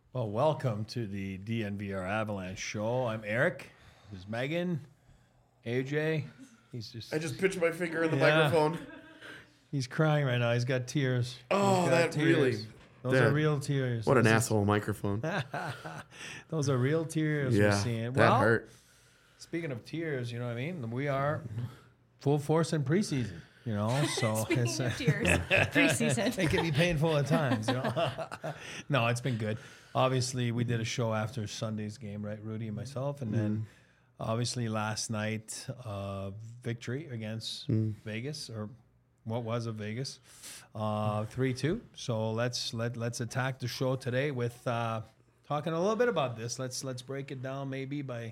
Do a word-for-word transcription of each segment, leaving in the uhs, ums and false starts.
Well, welcome to the D N V R Avalanche show. I'm Eric. This is Megan. A J. He's just. I just pitched my finger in the Yeah. microphone. He's crying right now. He's got tears. Oh, He's got that tears. really. Those that- are real tears. What an Those is- asshole microphone. Those are real tears we're Yeah, seeing. that Well, hurt. speaking of tears, you know what I mean? We are full force in preseason, you know? So Speaking it's, of tears, preseason. it can be painful at times, you know? No, it's been good. Obviously, we did a show after Sunday's game, right, Rudy and myself? And then obviously last night, uh, victory against Vegas, or what was a Vegas, uh, three two. So let's let let's attack the show today with uh, talking a little bit about this. Let's let's break it down maybe by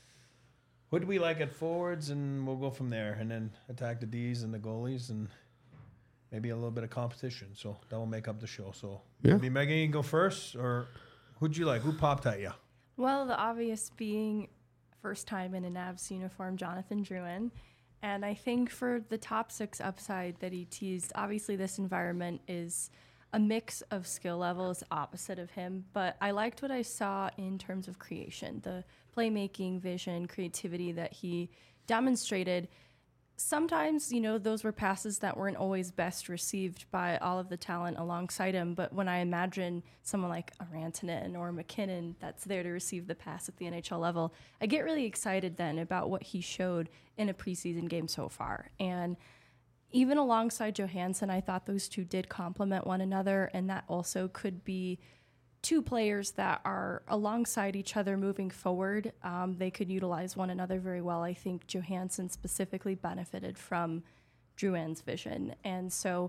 who do we like at forwards, and we'll go from there, and then attack the D's and the goalies, and maybe a little bit of competition. So that will make up the show. So Yeah. maybe Megan, you can go first, or who'd you like? Who popped at you? Well, the obvious being first time in a Navs uniform, Jonathan Drouin. And I think for the top six upside that he teased, obviously this environment is a mix of skill levels opposite of him. But I liked what I saw in terms of creation, the playmaking, vision, creativity that he demonstrated. Sometimes, you know, those were passes that weren't always best received by all of the talent alongside him. But when I imagine someone like a Rantanen or McKinnon that's there to receive the pass at the N H L level, I get really excited then about what he showed in a preseason game so far. And even alongside Johansson, I thought those two did complement one another, and that also could be two players that are alongside each other moving forward. Um, they could utilize one another very well. I think Johansson specifically benefited from Drouin's vision. And so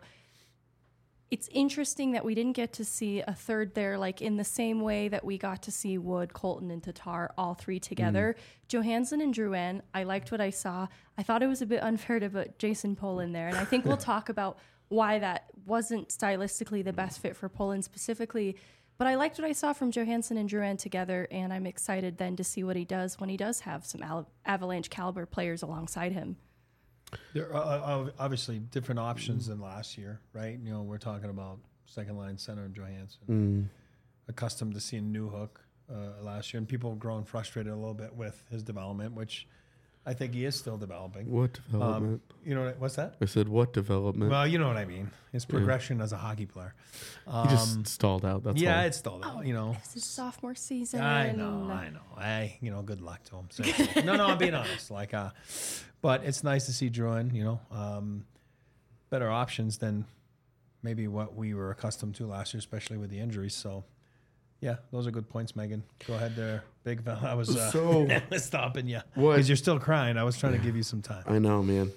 it's interesting that we didn't get to see a third there, like in the same way that we got to see Wood, Colton, and Tatar, all three together. Mm. Johansson and Drouin, I liked what I saw. I thought it was a bit unfair to put Jason Poland there. And I think we'll talk about why that wasn't stylistically the best fit for Poland specifically. But I liked what I saw from Johansson and Drouin together, and I'm excited then to see what he does when he does have some Al- Avalanche caliber players alongside him. There are obviously different options than last year, right? You know, we're talking about second line center and Johansson. Mm. Accustomed to seeing Newhook uh, last year, and people have grown frustrated a little bit with his development, which I think he is still developing. What development? Um, you know what, what's that? I said, what development? Well, you know what I mean. His progression yeah. as a hockey player. Um, he just stalled out. That's yeah, all. it's stalled out. You know, it's his sophomore season. I know, I know. Hey, you know, good luck to him. So, no, no, I'm being honest. Like, uh, but it's nice to see Drouin. You know, um, better options than maybe what we were accustomed to last year, especially with the injuries. So, yeah, those are good points, Megan. Go ahead there, big fella. I was uh, so stopping you what? Because you're still crying. I was trying to give you some time. I know, man.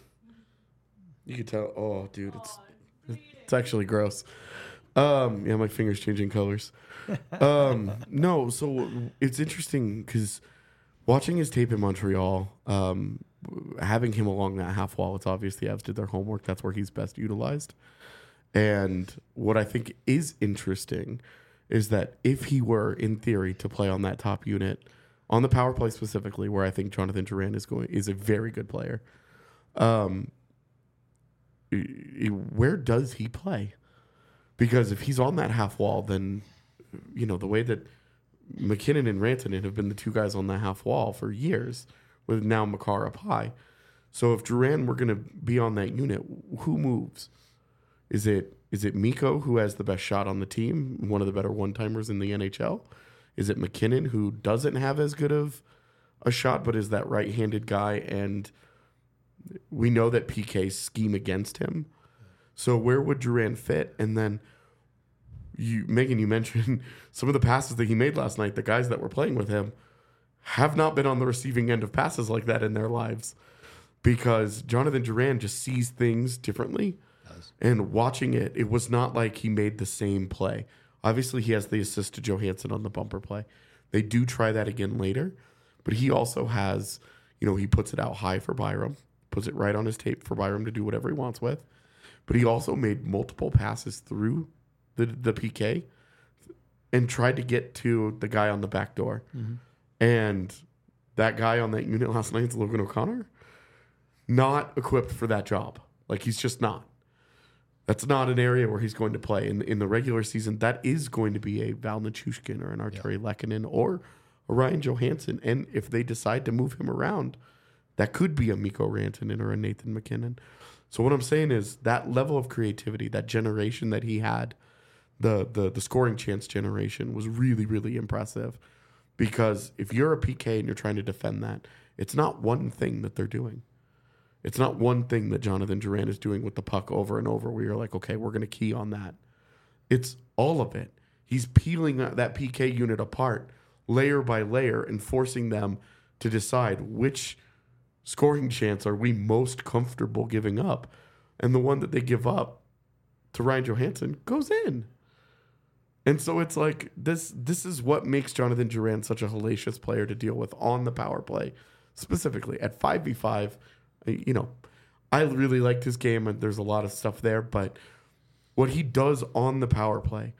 You could tell. Oh, dude, it's it's actually gross. Um, yeah, my finger's changing colors. Um, no, so it's interesting because watching his tape in Montreal, um, having him along that half wall, it's obvious the Avs did their homework. That's where he's best utilized. And what I think is interesting is that if he were, in theory, to play on that top unit, on the power play specifically, where I think Jonathan Drouin is going, is a very good player. Um, where does he play? Because if he's on that half wall, then, you know, the way that McKinnon and Rantanen have been the two guys on that half wall for years, with now Makar up high. So if Drouin were going to be on that unit, who moves? Is it is it Mikko, who has the best shot on the team, one of the better one-timers in the N H L? Is it McKinnon, who doesn't have as good of a shot, but is that right-handed guy, and we know that P Ks scheme against him? So where would Drouin fit? And then, you, Megan, you mentioned some of the passes that he made last night. The guys that were playing with him have not been on the receiving end of passes like that in their lives, because Jonathan Drouin just sees things differently. And watching it, it was not like he made the same play. Obviously, he has the assist to Johansson on the bumper play. They do try that again later, but he also has, you know, he puts it out high for Byram, puts it right on his tape for Byram to do whatever he wants with. But he also made multiple passes through the the P K and tried to get to the guy on the back door. Mm-hmm. And that guy on that unit last night is Logan O'Connor, not equipped for that job. Like, he's just not. That's not an area where he's going to play. In, in the regular season, that is going to be a Val Nichushkin or an Arturi yeah. Lehkonen or a Ryan Johansson. And if they decide to move him around, that could be a Mikko Rantanen or a Nathan MacKinnon. So what I'm saying is that level of creativity, that generation that he had, the the the scoring chance generation was really, really impressive. Because if you're a P K and you're trying to defend that, it's not one thing that they're doing. It's not one thing that Jonathan Drouin is doing with the puck over and over where you're like, okay, we're going to key on that. It's all of it. He's peeling that P K unit apart layer by layer and forcing them to decide which scoring chance are we most comfortable giving up. And the one that they give up to Ryan Johansson goes in. And so it's like this this is what makes Jonathan Drouin such a hellacious player to deal with on the power play, specifically at five v five. You know, I really liked his game, and there's a lot of stuff there, but what he does on the power play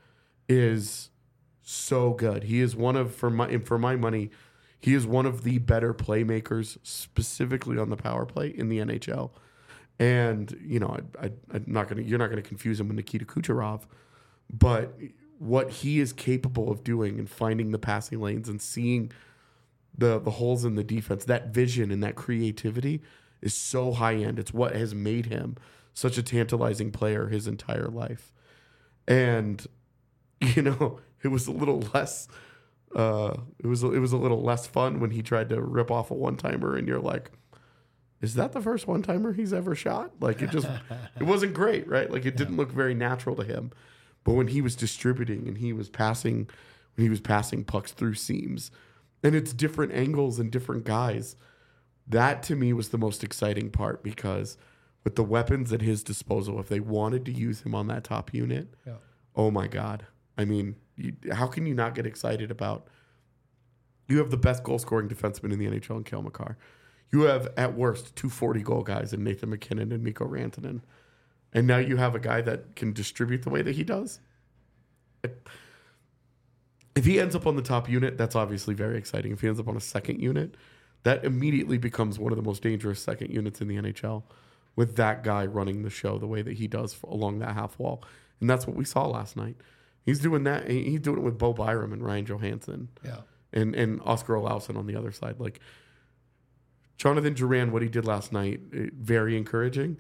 is so good. He is one of, for my for my money, he is one of the better playmakers specifically on the power play in the N H L. And, you know, I, I, I'm not gonna you're not gonna confuse him with Nikita Kucherov, but what he is capable of doing and finding the passing lanes and seeing the the holes in the defense, that vision and that creativity is so high end. It's what has made him such a tantalizing player his entire life. And, you know, it was a little less uh, it was it was a little less fun when he tried to rip off a one-timer and you're like, is that the first one-timer he's ever shot? Like it just it wasn't great, right? Like it didn't look very natural to him. But when he was distributing and he was passing when he was passing pucks through seams, and it's different angles and different guys, that to me was the most exciting part, because with the weapons at his disposal, if they wanted to use him on that top unit, yeah. oh my God. I mean, you, how can you not get excited about, you have the best goal-scoring defenseman in the N H L in Cale Makar. You have, at worst, two forty-goal guys in Nathan MacKinnon and Mikko Rantanen. And now you have a guy that can distribute the way that he does. If he ends up on the top unit, that's obviously very exciting. If he ends up on a second unit, that immediately becomes one of the most dangerous second units in the N H L, with that guy running the show the way that he does along that half wall. And that's what we saw last night. He's doing that. He's doing it with Bo Byram and Ryan Johansson. Yeah. And and Oscar Olausson on the other side. Like, Jonathan Drouin, what he did last night, very encouraging.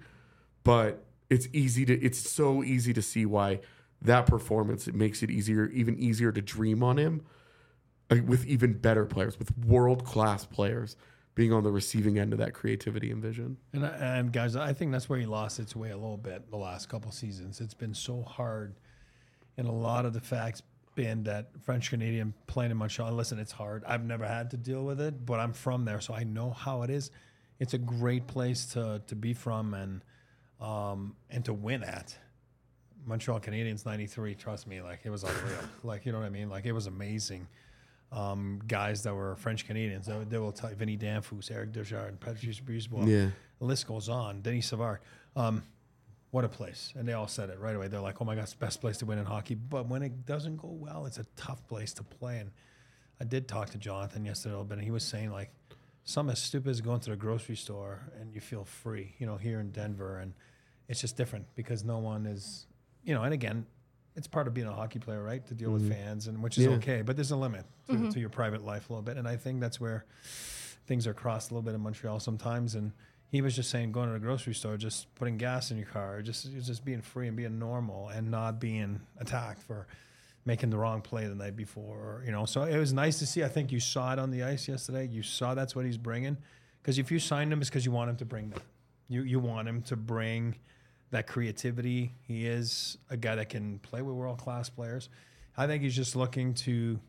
But it's easy to it's so easy to see why that performance, it makes it easier, even easier to dream on him. With even better players, with world-class players being on the receiving end of that creativity and vision. And, and guys, I think that's where he lost its way a little bit the last couple seasons. It's been so hard, and a lot of the facts been that French-Canadian playing in Montreal, listen, it's hard. I've never had to deal with it, but I'm from there, so I know how it is. It's a great place to to be from and um, and to win at. Montreal Canadiens ninety-three, trust me, like it was unreal. Like, you know what I mean? Like, it was amazing. Um, guys that were French Canadians, they, they will tell you, Vinny Danfus, Eric Desjardins, Patrice Brisebois. Yeah. The list goes on. Denis Savard. Um, what a place. And they all said it right away. They're like, oh my God, it's the best place to win in hockey. But when it doesn't go well, it's a tough place to play. And I did talk to Jonathan yesterday a little bit, and he was saying, like, something as stupid as going to the grocery store and you feel free, you know, here in Denver. And it's just different because no one is, you know, and again, it's part of being a hockey player, right? To deal mm-hmm. with fans, and which is yeah. okay, but there's a limit to, mm-hmm. to your private life a little bit. And I think that's where things are crossed a little bit in Montreal sometimes. And he was just saying, going to the grocery store, just putting gas in your car, just just being free and being normal and not being attacked for making the wrong play the night before. Or, you know, so it was nice to see. I think you saw it on the ice yesterday. You saw that's what he's bringing. Because if you signed him, it's because you want him to bring that. You you want him to bring that creativity. He is a guy that can play with world-class players. I think he's just looking to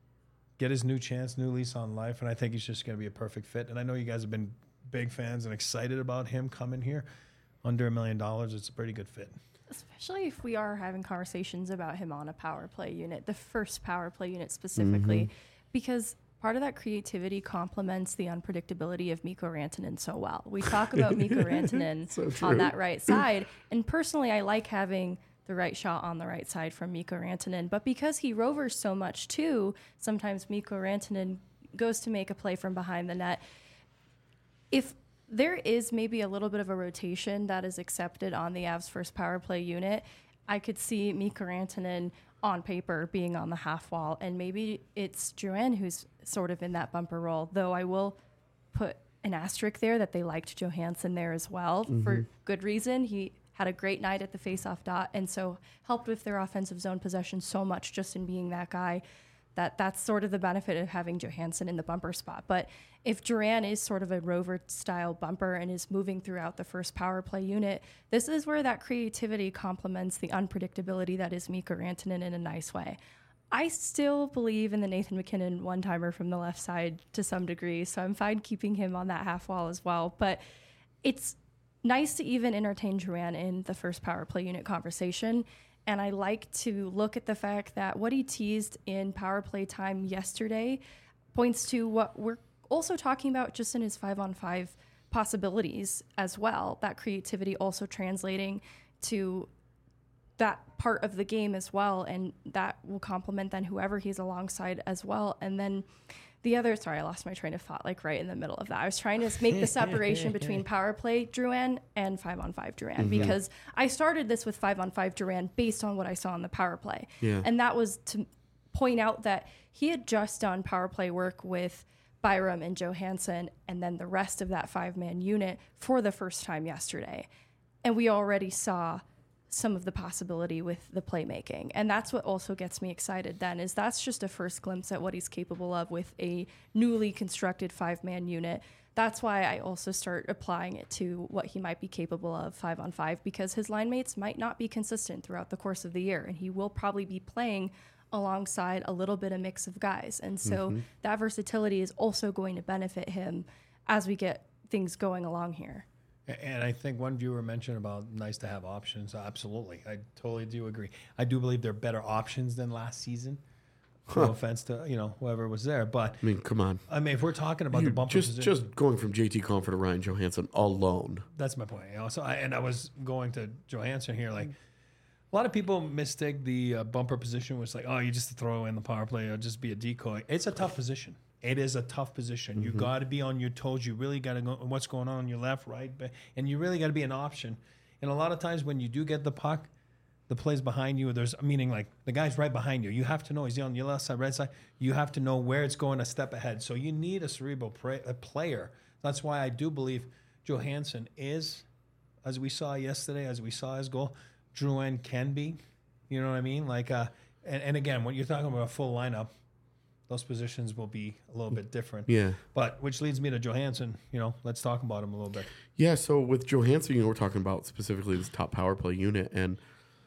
get his new chance, new lease on life, and I think he's just going to be a perfect fit. And I know you guys have been big fans and excited about him coming here. Under a million dollars, it's a pretty good fit. Especially if we are having conversations about him on a power play unit, the first power play unit specifically, mm-hmm. because part of that creativity complements the unpredictability of Mikko Rantanen so well. We talk about Mikko Rantanen so on that right side, and personally, I like having the right shot on the right side from Mikko Rantanen, but because he rovers so much too, sometimes Mikko Rantanen goes to make a play from behind the net. If there is maybe a little bit of a rotation that is accepted on the Avs first power play unit. I could see Mikko Rantanen on paper being on the half wall, and maybe it's Drouin who's sort of in that bumper role, though I will put an asterisk there that they liked Johansson there as well mm-hmm. for good reason. He had a great night at the faceoff dot, and so helped with their offensive zone possession so much just in being that guy. That that's sort of the benefit of having Johansson in the bumper spot. But if Duran is sort of a rover-style bumper and is moving throughout the first power play unit, this is where that creativity complements the unpredictability that is Mikko Rantanen in a nice way. I still believe in the Nathan MacKinnon one-timer from the left side to some degree, so I'm fine keeping him on that half wall as well. But it's nice to even entertain Duran in the first power play unit conversation. And I like to look at the fact that what he teased in power play time yesterday points to what we're also talking about just in his five-on-five possibilities as well. That creativity also translating to that part of the game as well, and that will complement then whoever he's alongside as well. And then the other, sorry, I lost my train of thought, like right in the middle of that. I was trying to make the separation between power play Drouin and five on five Drouin mm-hmm. because I started this with five on five Drouin based on what I saw in the power play. Yeah. And that was to point out that he had just done power play work with Byram and Johansson and then the rest of that five-man unit for the first time yesterday. And we already saw some of the possibility with the playmaking. And that's what also gets me excited then, is that's just a first glimpse at what he's capable of with a newly constructed five-man unit. That's why I also start applying it to what he might be capable of five on five, because his line mates might not be consistent throughout the course of the year, and he will probably be playing alongside a little bit of mix of guys. And so mm-hmm. that versatility is also going to benefit him as we get things going along here. And I think one viewer mentioned about nice to have options. Absolutely. I totally do agree. I do believe they're better options than last season. Huh. No offense to, you know, whoever was there. But I mean, come on. I mean, if we're talking about You're the bumper just, position, just going from J T Compher to Ryan Johansson alone. That's my point. You know? So I, and I was going to Johansson here. Like, a lot of people mistake the uh, bumper position was like, oh, you just throw in the power play or just be a decoy. It's a tough position. It is a tough position. Mm-hmm. You got to be on your toes. You really got to go what's going on on your left, right, and you really got to be an option. And a lot of times when you do get the puck, the play's behind you. There's meaning like the guy's right behind you. You have to know he's on your left side, right side. You have to know where it's going a step ahead. So you need a cerebral pra- a player. That's why I do believe Johansson is, as we saw yesterday, as we saw his goal, Drouin can be. You know what I mean? Like, uh, and, and again, when you're talking about a full lineup, those positions will be a little bit different. Yeah. But which leads me to Johansson. You know, let's talk about him a little bit. Yeah, so with Johansson, you know, we're talking about specifically this top power play unit. And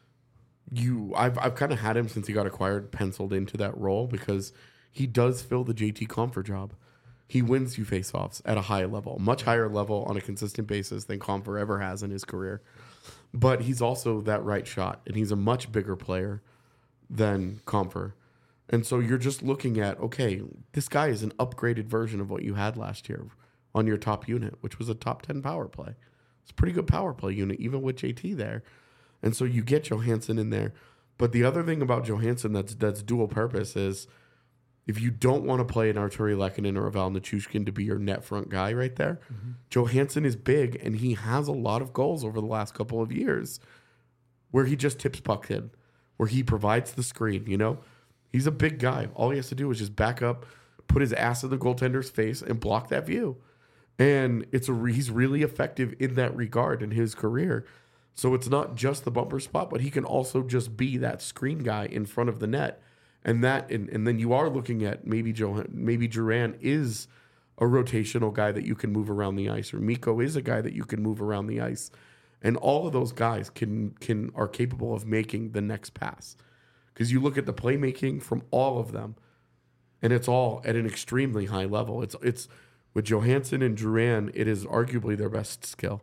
you I've I've kind of had him since he got acquired, penciled into that role because he does fill the J T Compher job. He wins you faceoffs at a high level, much higher level on a consistent basis than Compher ever has in his career. But he's also that right shot, and he's a much bigger player than Compher. And so you're just looking at, okay, this guy is an upgraded version of what you had last year on your top unit, which was a top ten power play. It's a pretty good power play unit, even with J T there. And so you get Johansson in there. But the other thing about Johansson that's that's dual purpose is if you don't want to play an Artturi Lehkonen or a Val Nichushkin to be your net front guy right there, mm-hmm. Johansson is big, and he has a lot of goals over the last couple of years where he just tips puck in, where he provides the screen, you know? He's a big guy. All he has to do is just back up, put his ass in the goaltender's face, and block that view. And it's a re- he's really effective in that regard in his career. So it's not just the bumper spot, but he can also just be that screen guy in front of the net. And that, and, and then you are looking at maybe Johan, maybe Duran is a rotational guy that you can move around the ice, or Mikko is a guy that you can move around the ice. And all of those guys can can are capable of making the next pass. Because you look at the playmaking from all of them, and it's all at an extremely high level. It's it's with Johansson and Duran, it is arguably their best skill.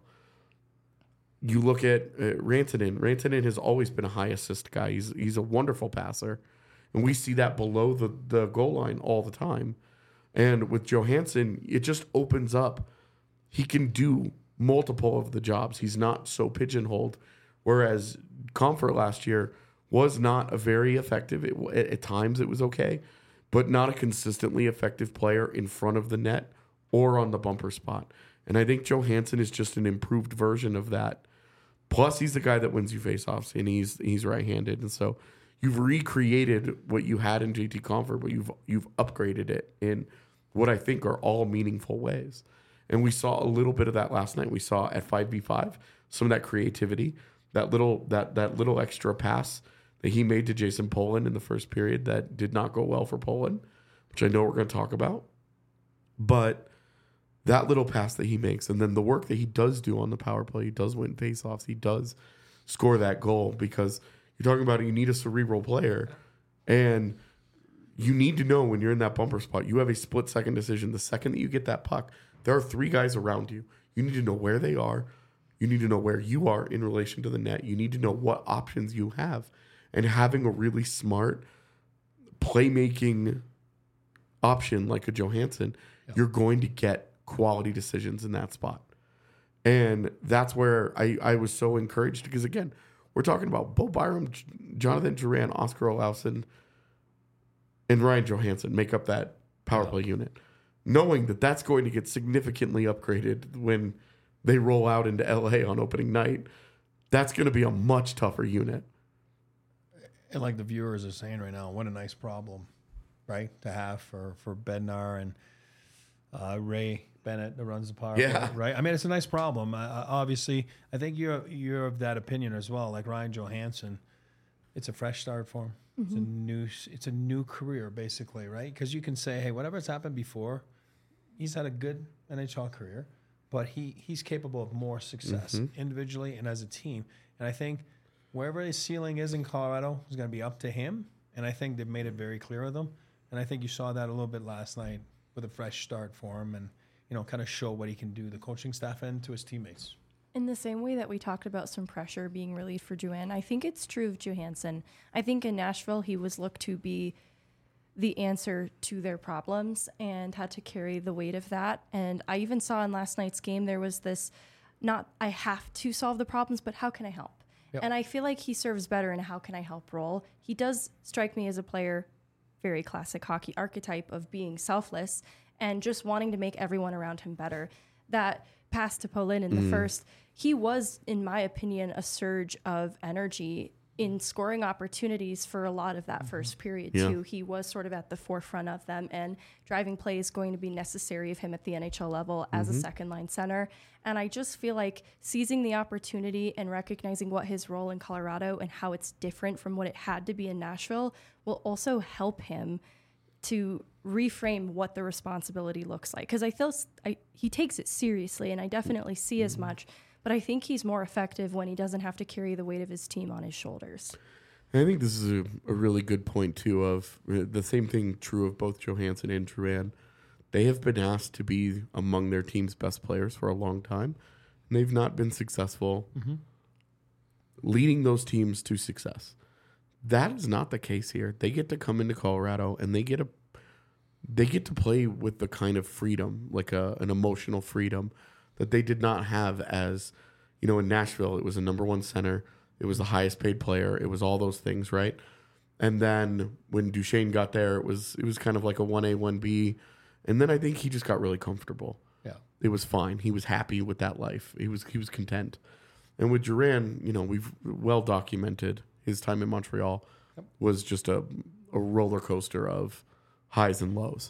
You look at uh, Rantanen. Rantanen has always been a high assist guy. He's he's a wonderful passer, and we see that below the, the goal line all the time. And with Johansson, it just opens up. He can do multiple of the jobs. He's not so pigeonholed. Whereas Compher last year was not a very effective, it, at, at times it was okay, but not a consistently effective player in front of the net or on the bumper spot. And I think Johansson is just an improved version of that. Plus, he's the guy that wins you faceoffs, and he's he's right-handed. And so you've recreated what you had in J T Compher, but you've you've upgraded it in what I think are all meaningful ways. And we saw a little bit of that last night. We saw at five v five some of that creativity, that little that that little extra pass that he made to Jason Poland in the first period that did not go well for Poland, which I know we're going to talk about. But that little pass that he makes, and then the work that he does do on the power play, he does win faceoffs, he does score that goal, because you're talking about you need a cerebral player, and you need to know when you're in that bumper spot, you have a split second decision. The second that you get that puck, there are three guys around you. You need to know where they are. You need to know where you are in relation to the net. You need to know what options you have. And having a really smart playmaking option like a Johansson, yeah. you're going to get quality decisions in that spot. And that's where I, I was so encouraged, because, again, we're talking about Bo Byram, Jonathan Duran, Oscar Olausson, and Ryan Johansson make up that power yeah. play unit, knowing that that's going to get significantly upgraded when they roll out into L A on opening night. That's going to be a much tougher unit. And like the viewers are saying right now, what a nice problem, right, to have for, for Bednar and uh, Ray Bennett that runs the power yeah. play, right? I mean, it's a nice problem. Uh, obviously, I think you're you're of that opinion as well. Like Ryan Johansson, it's a fresh start for him. Mm-hmm. It's a new it's a new career, basically, right? Because you can say, hey, whatever's happened before, he's had a good N H L career, but he he's capable of more success mm-hmm. individually and as a team. And I think wherever his ceiling is in Colorado is going to be up to him. And I think they've made it very clear with him. And I think you saw that a little bit last night with a fresh start for him, and you know, kind of show what he can do, the coaching staff and to his teammates. In the same way that we talked about some pressure being relieved for Juan, I think it's true of Johansson. I think in Nashville, he was looked to be the answer to their problems and had to carry the weight of that. And I even saw in last night's game, there was this, not I have to solve the problems, but how can I help? Yep. And I feel like he serves better in a how can I help role. He does strike me as a player, very classic hockey archetype of being selfless and just wanting to make everyone around him better. That pass to Poland in the mm. first, he was, in my opinion, a surge of energy in scoring opportunities for a lot of that mm-hmm. first period, yeah. too. He was sort of at the forefront of them, and driving play is going to be necessary of him at the N H L level mm-hmm. as a second-line center. And I just feel like seizing the opportunity and recognizing what his role in Colorado and how it's different from what it had to be in Nashville will also help him to reframe what the responsibility looks like. Because I feel I, he takes it seriously, and I definitely see as much, but I think he's more effective when he doesn't have to carry the weight of his team on his shoulders. And I think this is a, a really good point, too, of uh, the same thing true of both Johansson and Duran. They have been asked to be among their team's best players for a long time, and they've not been successful mm-hmm. leading those teams to success. That is not the case here. They get to come into Colorado, and they get a they get to play with the kind of freedom, like a, an emotional freedom that they did not have as, you know, in Nashville. It was a number one center. It was the highest paid player. It was all those things, right? And then when Duchesne got there, it was it was kind of like a one A, one B. And then I think he just got really comfortable. Yeah. It was fine. He was happy with that life. He was he was content. And with Duran, you know, we've well documented his time in Montreal yep. was just a, a roller coaster of highs and lows.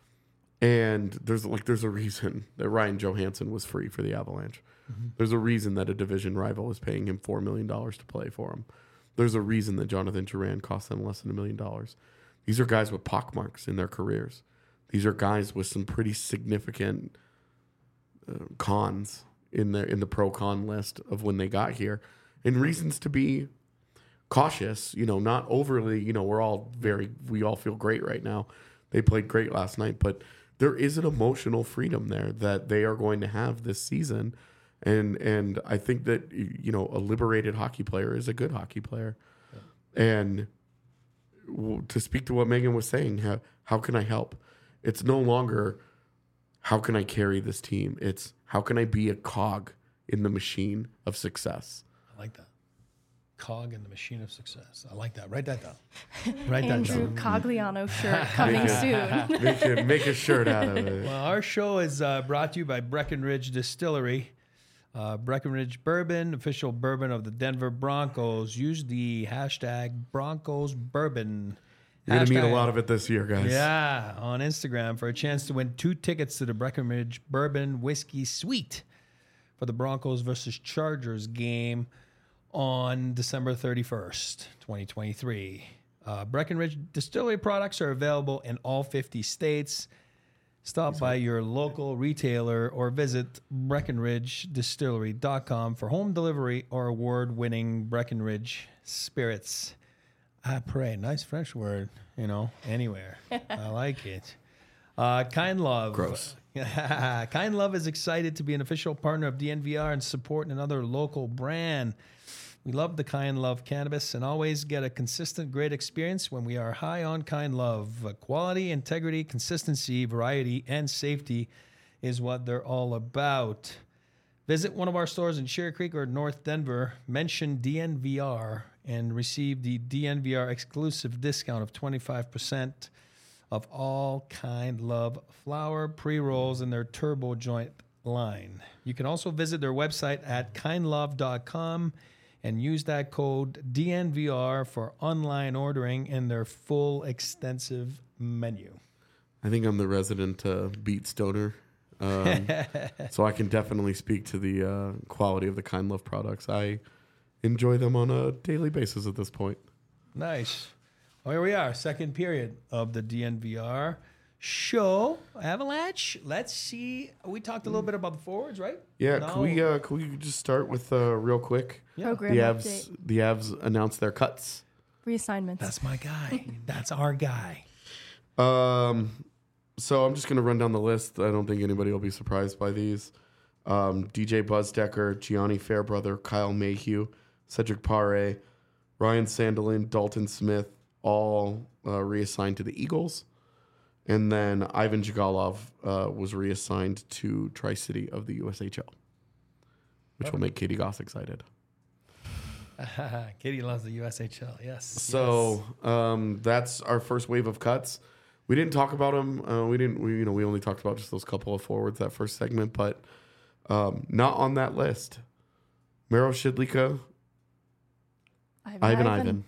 And there's like there's a reason that Ryan Johansson was free for the Avalanche. Mm-hmm. There's a reason that a division rival is paying him four million dollars to play for him. There's a reason that Jonathan Duran cost them less than a million dollars. These are guys with pockmarks in their careers. These are guys with some pretty significant uh, cons in their in the pro con list of when they got here, and reasons to be cautious. You know, not overly. You know, we're all very we all feel great right now. They played great last night, but there is an emotional freedom there that they are going to have this season, and and I think that you know a liberated hockey player is a good hockey player, yeah. and w- to speak to what Megan was saying, how how can I help? It's no longer how can I carry this team? It's how can I be a cog in the machine of success? I like that. cog in the machine of success. I like that. Write that down. Write Andrew that down. Cogliano shirt coming soon. Make a, make a shirt out of it. Well, our show is uh, brought to you by Breckenridge Distillery. Uh, Breckenridge Bourbon, official bourbon of the Denver Broncos. Use the hashtag Broncos Bourbon. You're going to meet a Hashtag- lot of it this year, guys. Yeah, on Instagram for a chance to win two tickets to the Breckenridge Bourbon Whiskey Suite for the Broncos versus Chargers game on December thirty-first, twenty twenty-three. Uh, Breckenridge Distillery products are available in all fifty states. Stop by your local retailer or visit breckenridge distillery dot com for home delivery or award-winning Breckenridge spirits. Après, nice French word, you know, anywhere. I like it. Uh, Kind Love. Gross. Kind Love is excited to be an official partner of D N V R and support another local brand. We love the Kind Love cannabis and always get a consistent, great experience when we are high on Kind Love. Uh, quality, integrity, consistency, variety, and safety is what they're all about. Visit one of our stores in Cherry Creek or North Denver, mention D N V R, and receive the D N V R exclusive discount of twenty-five percent of all Kind Love flower, pre-rolls, and their turbo joint line. You can also visit their website at kind love dot com and use that code D N V R for online ordering in their full extensive menu. I think I'm the resident uh, beat stoner. Um, so I can definitely speak to the uh, quality of the Kind Love products. I enjoy them on a daily basis at this point. Nice. Well, here we are, second period of the D N V R show. Avalanche. Let's see. We talked a little bit about the forwards, right? Yeah, Now- can we uh, can we just start with uh, real quick? Yeah. Program The update. Avs the Avs announced their cuts. Reassignments. That's my guy. That's our guy. Um, so I'm just gonna run down the list. I don't think anybody will be surprised by these. Um, D J Buzzdecker, Gianni Fairbrother, Kyle Mayhew, Cedric Pare, Ryan Sandelin, Dalton Smith, all uh, reassigned to the Eagles. And then Ivan Jigalov uh, was reassigned to Tri-City of the U S H L, which will make Katie Goss excited. Katie loves the U S H L. Yes. So um, that's our first wave of cuts. We didn't talk about them. Uh, we didn't. We you know we only talked about just those couple of forwards that first segment, but um, not on that list. Miro Shidlika, Ivan, Ivan Ivan.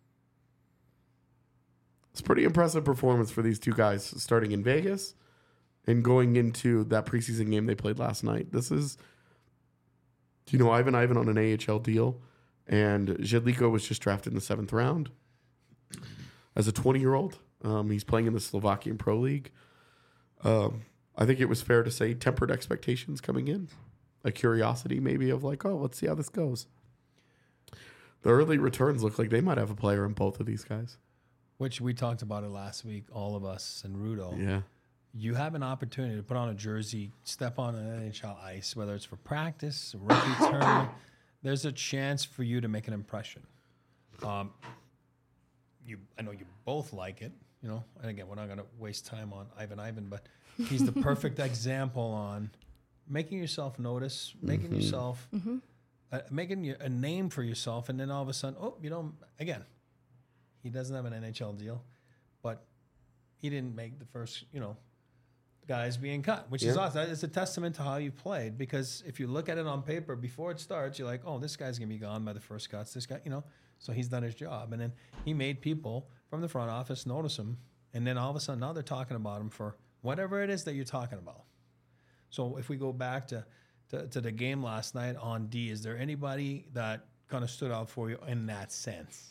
It's a pretty impressive performance for these two guys starting in Vegas and going into that preseason game they played last night. This is, you know, Ivan Ivan on an A H L deal, and Jedliko was just drafted in the seventh round as a twenty-year-old. Um, he's playing in the Slovakian Pro League. Um, I think it was fair to say tempered expectations coming in, a curiosity maybe of like, oh, let's see how this goes. The early returns look like they might have a player in both of these guys. Which we talked about it last week, all of us and Rudo. Yeah. You have an opportunity to put on a jersey, step on an N H L ice, whether it's for practice, a rookie tournament. There's a chance for you to make an impression. Um, you, I know you both like it, you know. And again, we're not going to waste time on Ivan Ivan, but he's the perfect example on making yourself notice, making Mm-hmm. yourself, uh, making you- a name for yourself, and then all of a sudden, oh, you know, again, he doesn't have an N H L deal, but he didn't make the first, you know, guys being cut, which is Yeah. awesome. It's a testament to how you played, because if you look at it on paper before it starts, you're like, oh, this guy's going to be gone by the first cuts. This guy, you know, so he's done his job. And then he made people from the front office notice him. And then all of a sudden now they're talking about him for whatever it is that you're talking about. So if we go back to, to, to the game last night on D, is there anybody that kind of stood out for you in that sense?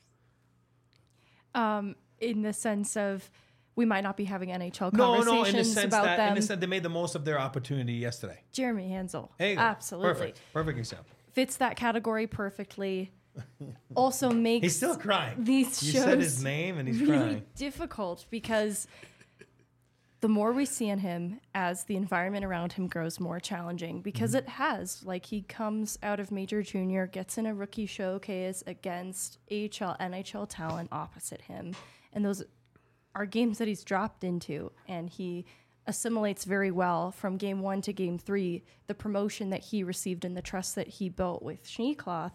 Um, in the sense of we might not be having N H L No, conversations no, in the sense about that them. in the sense they made the most of their opportunity yesterday. Jeremy Hansel. There you go. Absolutely. Perfect. Perfect example. Fits that category perfectly. Also makes He's still crying. these You shows said his name and he's really crying. difficult because the more we see in him as the environment around him grows more challenging, because Mm-hmm. it has. Like, he comes out of major junior, gets in a rookie showcase against A H L, N H L talent opposite him. And those are games that he's dropped into, and he assimilates very well from game one to game three, the promotion that he received and the trust that he built with Schneekloth.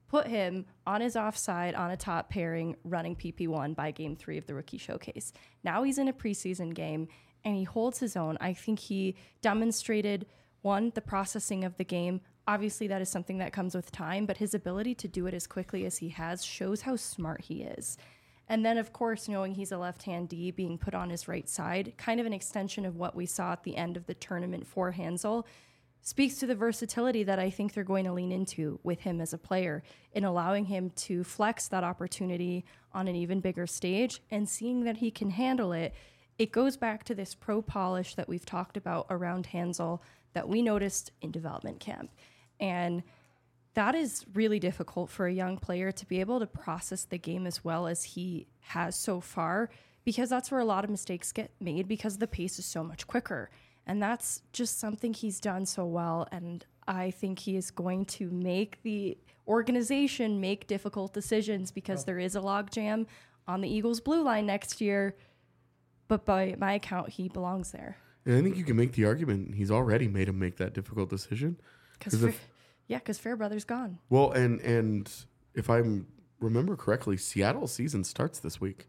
put him on his offside on a top pairing running P P one by game three of the rookie showcase. Now he's in a preseason game and he holds his own. I think he demonstrated, one, the processing of the game. Obviously, that is something that comes with time, but his ability to do it as quickly as he has shows how smart he is. And then, of course, knowing he's a left-hand D being put on his right side, kind of an extension of what we saw at the end of the tournament for Hansel, speaks to the versatility that I think they're going to lean into with him as a player in allowing him to flex that opportunity on an even bigger stage and seeing that he can handle it. It goes back to this pro polish that we've talked about around Hansel that we noticed in development camp. And that is really difficult for a young player to be able to process the game as well as he has so far, because that's where a lot of mistakes get made because the pace is so much quicker. And that's just something he's done so well. And I think he is going to make the organization make difficult decisions because oh. there is a logjam on the Eagles' blue line next year. But by my account, he belongs there. And I think you can make the argument he's already made him make that difficult decision. Because Fa- yeah, because Fairbrother's gone. Well, and and if I remember correctly, Seattle's season starts this week.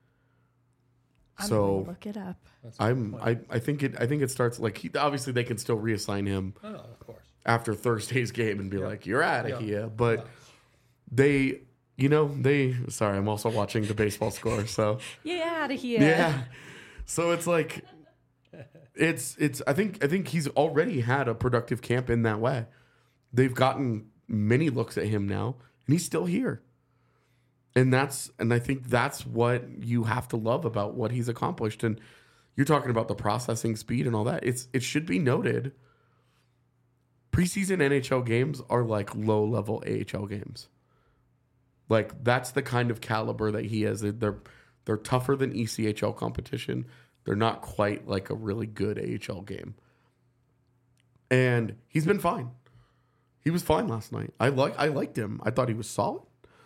I'm so gonna look it up. I'm I, I think it I think it starts like he, obviously they can still reassign him oh, no, of course. after Thursday's game and be yeah. like, you're out of yeah. here. But yeah. they you know, they sorry, I'm also watching the baseball score, so yeah, out of here. Yeah. So it's like It's it's I think I think he's already had a productive camp in that way. They've gotten many looks at him now, and he's still here. And that's and I think that's what you have to love about what he's accomplished. And you're talking about the processing speed and all that. It's it should be noted. Preseason N H L games are like low level A H L games. Like that's the kind of caliber that he has. They're they're tougher than E C H L competition. They're not quite like a really good A H L game. And he's been fine. He was fine last night. I like I liked him. I thought he was solid.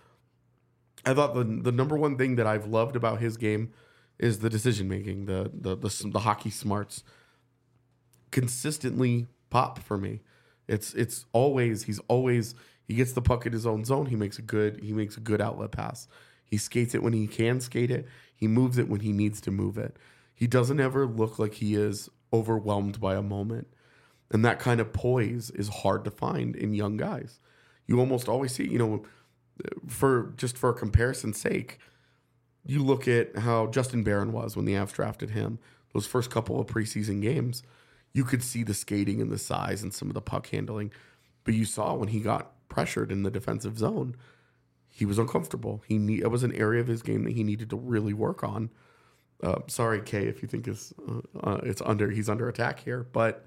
I thought the the number one thing that I've loved about his game is the decision making, the the the, the hockey smarts. Consistently pop for me. It's it's always he's always he gets the puck in his own zone. He makes a good he makes a good outlet pass. He skates it when he can skate it. He moves it when he needs to move it. He doesn't ever look like he is overwhelmed by a moment. And that kind of poise is hard to find in young guys. You almost always see, you know, for just for comparison's sake, you look at how Justin Barron was when the Avs drafted him. Those first couple of preseason games, you could see the skating and the size and some of the puck handling. But you saw when he got pressured in the defensive zone, he was uncomfortable. He need, it was an area of his game that he needed to really work on. Uh, sorry, Kay, if you think it's uh, uh, it's under he's under attack here, but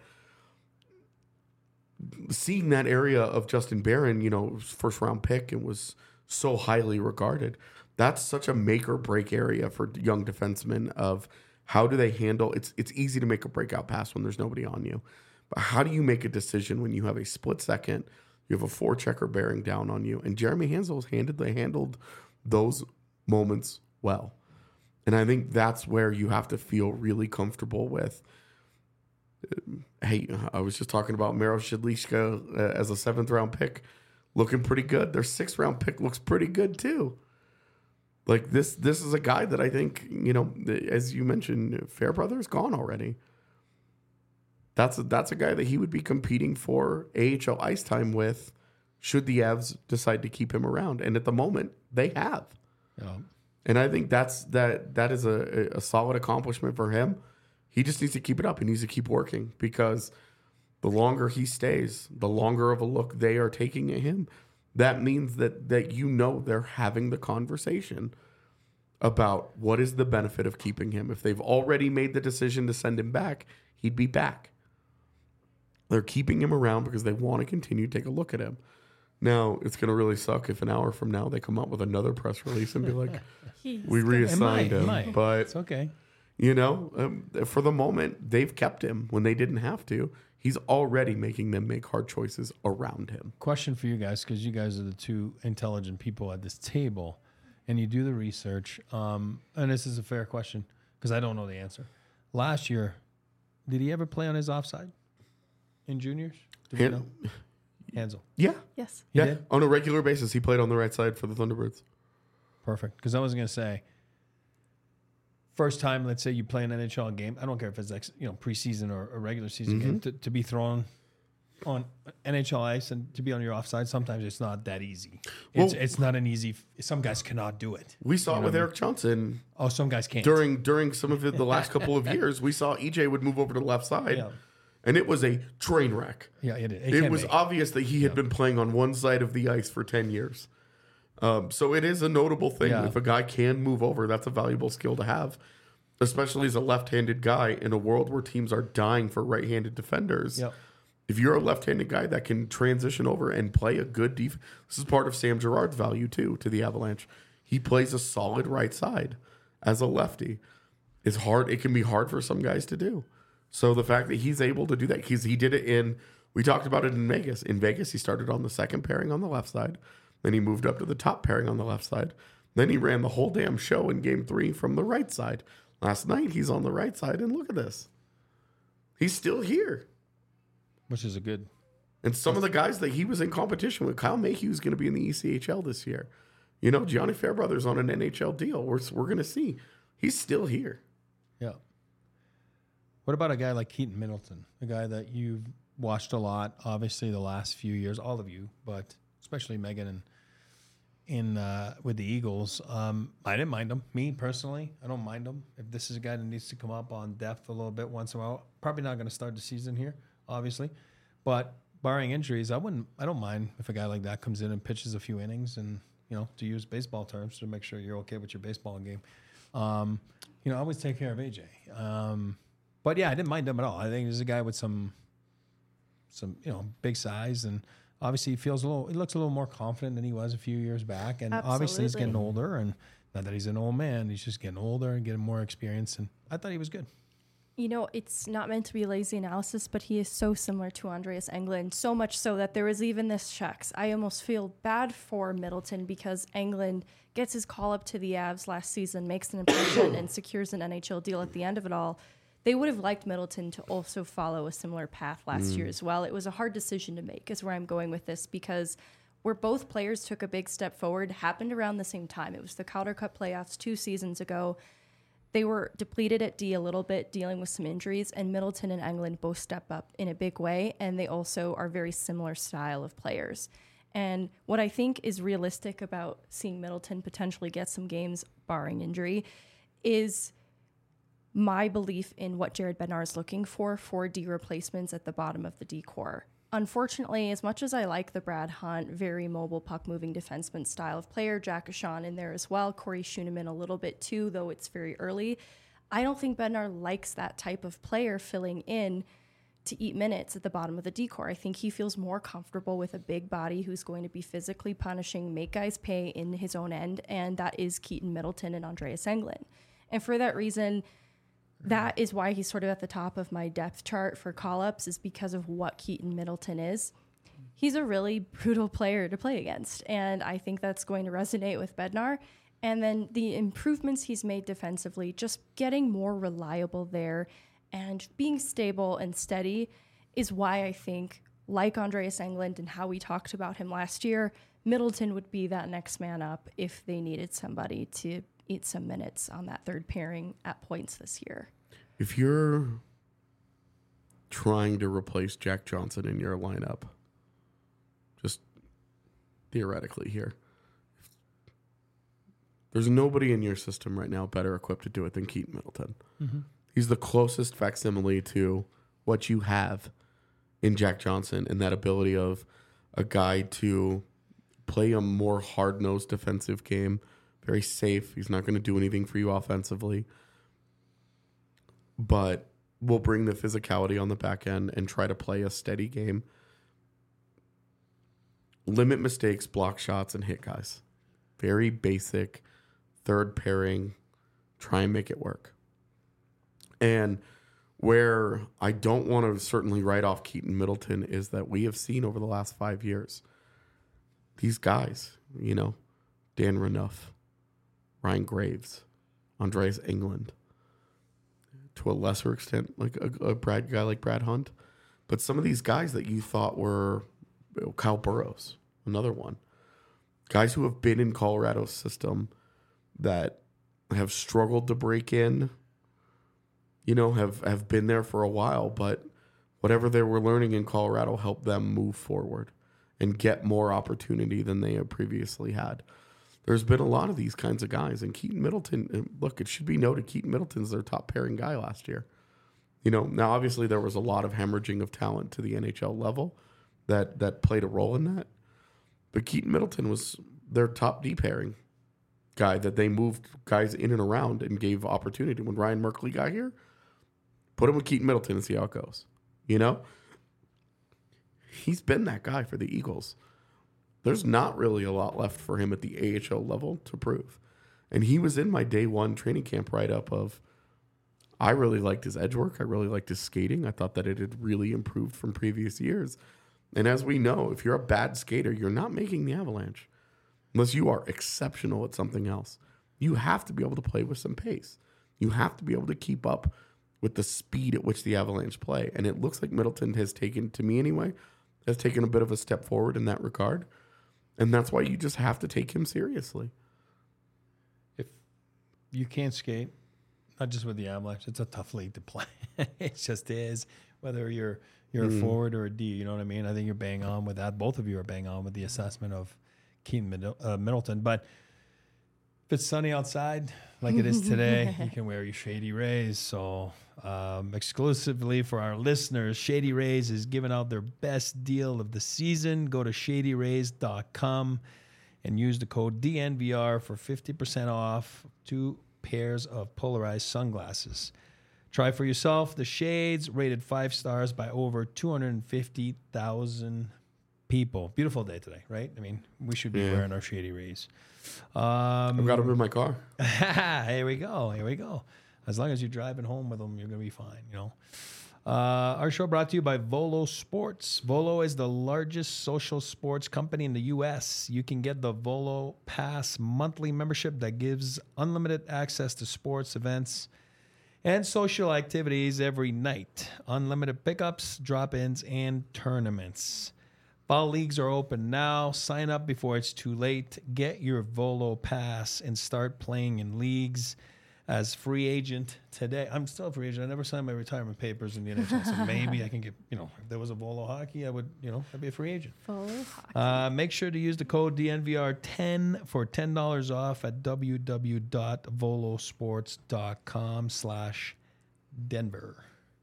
seeing that area of Justin Barron, you know, first round pick and was so highly regarded. That's such a make or break area for young defensemen of how do they handle it's it's easy to make a breakout pass when there's nobody on you. But how do you make a decision when you have a split second, you have a four checker bearing down on you? And Jeremy Hansel's handled they handled those moments well. And I think that's where you have to feel really comfortable with. Hey, I was just talking about Miro Shidlishka uh, as a seventh round pick, looking pretty good. Their sixth round pick looks pretty good too. Like this, this is a guy that I think, you know, as you mentioned, Fairbrother's gone already. That's a, that's a guy that he would be competing for A H L ice time with, should the Avs decide to keep him around. And at the moment, they have. Yeah. And I think that's that that is a, a solid accomplishment for him. He just needs to keep it up. He needs to keep working because the longer he stays, the longer of a look they are taking at him. That means that that you know they're having the conversation about what is the benefit of keeping him. If they've already made the decision to send him back, he'd be back. They're keeping him around because they want to continue to take a look at him. Now, it's going to really suck if an hour from now they come out with another press release and be like, we reassigned him. Might. But it's okay. You know, um, for the moment, they've kept him when they didn't have to. He's already making them make hard choices around him. Question for you guys, because you guys are the two intelligent people at this table, and you do the research. Um, and this is a fair question, because I don't know the answer. Last year, did he ever play on his offside in juniors? Do we know? Hansel. Yeah. Yes. He yeah. did? On a regular basis, he played on the right side for the Thunderbirds. Perfect. Because I was going to say, first time, let's say you play an N H L game, I don't care if it's like, you know, preseason or a regular season Mm-hmm. game, to, to be thrown on N H L ice and to be on your offside, sometimes it's not that easy. It's Well- it's not an easy, some guys cannot do it. We saw You it know with what I Eric Johnson Oh, some guys can't. during during some of the, the last couple of years. We saw E J would move over to the left side, Yeah. and it was a train wreck. Yeah, it, it, It can was be. obvious that he had been playing on one side of the ice for ten years. Um, so it is a notable thing. Yeah. If a guy can move over, that's a valuable skill to have, especially as a left-handed guy in a world where teams are dying for right-handed defenders. Yep. If you're a left-handed guy that can transition over and play a good defense, this is part of Sam Girard's value too to the Avalanche. He plays a solid right side as a lefty. It's hard. It can be hard for some guys to do. So the fact that he's able to do that, because he did it in, we talked about it in Vegas. In Vegas, he started on the second pairing on the left side. Then he moved up to the top pairing on the left side. Then he ran the whole damn show in game three from the right side. Last night, he's on the right side, and look at this. He's still here. Which is a good. And some of the guys that he was in competition with, Kyle Mayhew is going to be in the E C H L this year. You know, Gianni Fairbrother's on an N H L deal. We're, we're going to see. He's still here. Yeah. What about a guy like Keaton Middleton, a guy that you've watched a lot, obviously the last few years, all of you, but especially Megan and in uh, with the Eagles. Um, I didn't mind him. Me personally, I don't mind him. If this is a guy that needs to come up on depth a little bit once in a while, probably not going to start the season here, obviously. But barring injuries, I wouldn't. I don't mind if a guy like that comes in and pitches a few innings, and you know, to use baseball terms, to make sure you're okay with your baseball game. Um, you know, I always take care of A J. Um, but yeah, I didn't mind him at all. I think he's a guy with some, some you know, big size, and obviously he feels a little. He looks a little more confident than he was a few years back, and obviously he's Absolutely. getting older. And not that he's an old man, he's just getting older and getting more experience. And I thought he was good. You know, it's not meant to be lazy analysis, but he is so similar to Andreas Englund, so much so that there was even this checks. I almost feel bad for Middleton because Englund gets his call up to the Avs last season, makes an impression, and secures an N H L deal at the end of it all. They would have liked Middleton to also follow a similar path last year as well. It was a hard decision to make, is where I'm going with this, because where both players took a big step forward happened around the same time. It was the Calder Cup playoffs two seasons ago. They were depleted at D a little bit, dealing with some injuries, and Middleton and Englund both step up in a big way, and they also are very similar style of players. And what I think is realistic about seeing Middleton potentially get some games, barring injury, is my belief in what Jared Bednar is looking for for D replacements at the bottom of the D core. Unfortunately, as much as I like the Brad Hunt, very mobile puck-moving defenseman style of player, Jack Ashawn in there as well, Corey Schooneman a little bit too, though it's very early, I don't think Bednar likes that type of player filling in to eat minutes at the bottom of the D core. I think he feels more comfortable with a big body who's going to be physically punishing, make guys pay in his own end, and that is Keaton Middleton and Andreas Englund. And for that reason, that is why he's sort of at the top of my depth chart for call-ups, is because of what Keaton Middleton is. He's a really brutal player to play against, and I think that's going to resonate with Bednar. And then the improvements he's made defensively, just getting more reliable there and being stable and steady, is why I think, like Andreas Englund and how we talked about him last year, Middleton would be that next man up if they needed somebody to eat some minutes on that third pairing at points this year. If you're trying to replace Jack Johnson in your lineup, just theoretically here, there's nobody in your system right now better equipped to do it than Keaton Middleton. Mm-hmm. He's the closest facsimile to what you have in Jack Johnson, and that ability of a guy to play a more hard-nosed defensive game, very safe. He's not going to do anything for you offensively, but will bring the physicality on the back end and try to play a steady game. Limit mistakes, block shots, and hit guys. Very basic third pairing. Try and make it work. And where I don't want to certainly write off Keaton Middleton is that we have seen over the last five years, these guys, you know, Dan Renouf, Ryan Graves, Andreas Englund, to a lesser extent, like a, a Brad guy like Brad Hunt. But some of these guys that you thought were Kyle Burrows, another one. Guys who have been in Colorado's system that have struggled to break in, you know, have, have been there for a while, but whatever they were learning in Colorado helped them move forward and get more opportunity than they had previously had. There's been a lot of these kinds of guys. And Keaton Middleton, look, it should be noted, Keaton Middleton's their top pairing guy last year. You know, now obviously there was a lot of hemorrhaging of talent to the N H L level that that played a role in that. But Keaton Middleton was their top D pairing guy that they moved guys in and around and gave opportunity. When Ryan Merkley got here, put him with Keaton Middleton and see how it goes. You know? He's been that guy for the Eagles. There's not really a lot left for him at the A H L level to prove. And he was in my day one training camp write-up of, I really liked his edge work. I really liked his skating. I thought that it had really improved from previous years. And as we know, if you're a bad skater, you're not making the Avalanche unless you are exceptional at something else. You have to be able to play with some pace. You have to be able to keep up with the speed at which the Avalanche play. And it looks like Middleton has taken, to me anyway, has taken a bit of a step forward in that regard. And that's why you just have to take him seriously. If you can't skate, not just with the Avalanche, it's a tough league to play. It just is. Whether you're you're mm. a forward or a D, you know what I mean? I think you're bang on with that. Both of you are bang on with the assessment of Keaton Middle, uh, Middleton. But if it's sunny outside, like it is today, you can wear your Shady Rays. So um, exclusively for our listeners, Shady Rays is giving out their best deal of the season. Go to shady rays dot com and use the code D N V R for fifty percent off two pairs of polarized sunglasses. Try for yourself the shades, rated five stars by over two hundred fifty thousand people. Beautiful day today, right? I mean, we should be yeah. wearing our Shady Rays. Um, I've got them in my car. Here we go. Here we go. As long as you're driving home with them, you're going to be fine, you know. Uh, our show brought to you by Volo Sports. Volo is the largest social sports company in the U S. You can get the Volo Pass monthly membership that gives unlimited access to sports events and social activities every night. Unlimited pickups, drop-ins, and tournaments. Fall leagues are open now. Sign up before it's too late. Get your Volo Pass and start playing in leagues as free agent today. I'm still a free agent. I never signed my retirement papers in the N H L, so maybe I can get, you know, if there was a Volo hockey, I would, you know, I'd be a free agent. Volo hockey. Uh, make sure to use the code D N V R ten for ten dollars off at w w w dot volosports dot com slash Denver.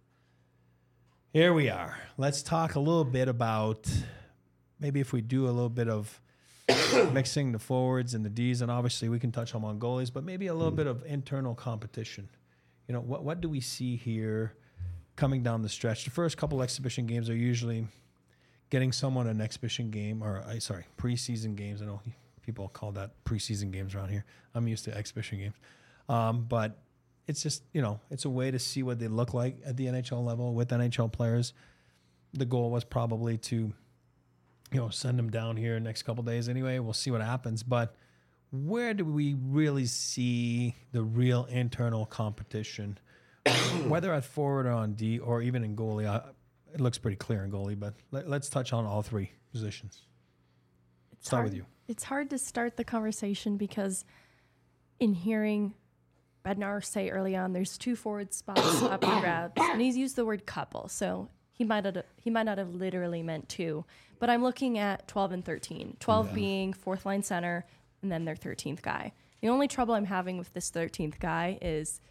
Here we are. Let's talk a little bit about maybe if we do a little bit of mixing the forwards and the Ds, and obviously we can touch on goalies, but maybe a little mm. bit of internal competition. You know, what what do we see here coming down the stretch? The first couple exhibition games are usually getting someone an exhibition game, or uh, sorry, preseason games. I know people call that preseason games around here. I'm used to exhibition games. Um, but it's just, you know, it's a way to see what they look like at the N H L level with N H L players. The goal was probably to, you know, send them down here next couple days anyway. We'll see what happens. But where do we really see the real internal competition, whether at forward or on D or even in goalie? I, it looks pretty clear in goalie, but let, let's touch on all three positions. It's Start hard, with you. It's hard to start the conversation because in hearing Bednar say early on, there's two forward spots up for grabs, and he's used the word couple, so he might have, he might not have literally meant two. But I'm looking at twelve and thirteen. twelve yeah. being fourth line center, and then their thirteenth guy. The only trouble I'm having with this thirteenth guy is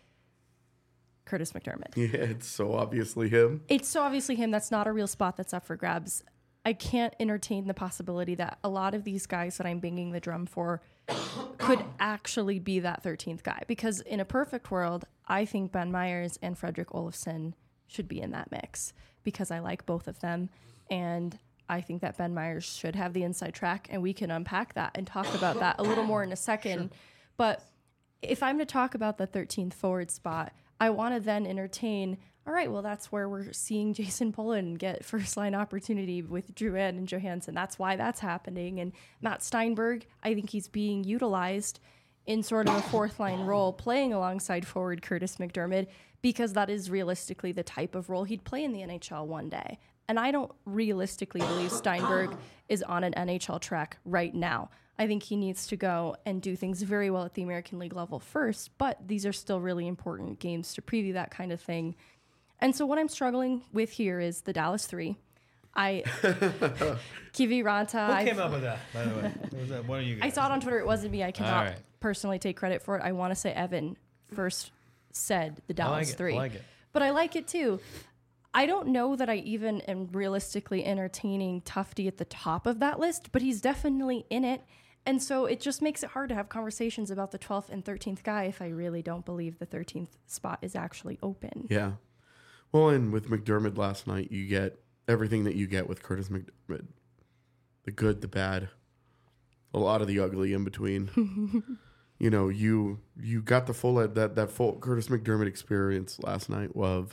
Curtis McDermott. Yeah, it's so obviously him. It's so obviously him. That's not a real spot that's up for grabs. I can't entertain the possibility that a lot of these guys that I'm banging the drum for could actually be that thirteenth guy. Because in a perfect world, I think Ben Myers and Fredrik Olofsson should be in that mix because I like both of them. And I think that Ben Myers should have the inside track, and we can unpack that and talk about that a little more in a second. Sure. But if I'm to talk about the thirteenth forward spot, I want to then entertain, all right, well, that's where we're seeing Jason Pullen get first line opportunity with Drouin and Johansson. That's why that's happening. And Matt Steinberg, I think he's being utilized in sort of a fourth line role, playing alongside forward Curtis McDermott, because that is realistically the type of role he'd play in the N H L one day. And I don't realistically believe Steinberg is on an N H L track right now. I think he needs to go and do things very well at the American League level first, but these are still really important games to preview that kind of thing. And so what I'm struggling with here is the Dallas Three. I Kiviranta. Who I've- came up with that, by the way? Was that one of you guys? I saw it on Twitter. It wasn't me. I cannot right. personally take credit for it. I want to say Evan first said the I like Dallas it. Three. I like it. But I like it too. I don't know that I even am realistically entertaining Tufte at the top of that list, but he's definitely in it. And so it just makes it hard to have conversations about the twelfth and thirteenth guy if I really don't believe the thirteenth spot is actually open. Yeah. Well, and with McDermott last night, you get everything that you get with Curtis McDermott. The good, the bad, a lot of the ugly in between. You know, you you got the full that that full Curtis McDermott experience last night of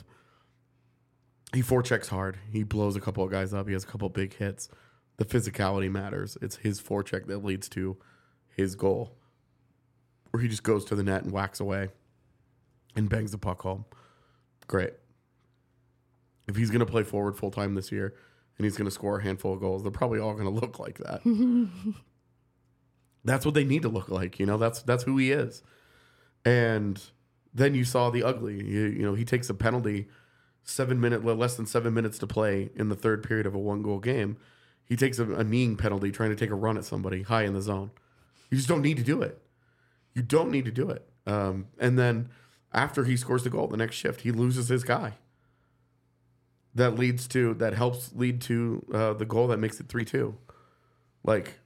he forechecks hard. He blows a couple of guys up. He has a couple of big hits. The physicality matters. It's his forecheck that leads to his goal, where he just goes to the net and whacks away and bangs the puck home. Great. If he's going to play forward full time this year and he's going to score a handful of goals, they're probably all going to look like that. That's what they need to look like. You know, that's that's who he is. And then you saw the ugly. You, you know, he takes a penalty, seven minute, less than seven minutes to play in the third period of a one goal game. He takes a, a kneeing penalty trying to take a run at somebody high in the zone. You just don't need to do it. You don't need to do it. Um, and then after he scores the goal, the next shift, he loses his guy. That leads to, that helps lead to uh, the goal that makes it three two. Like,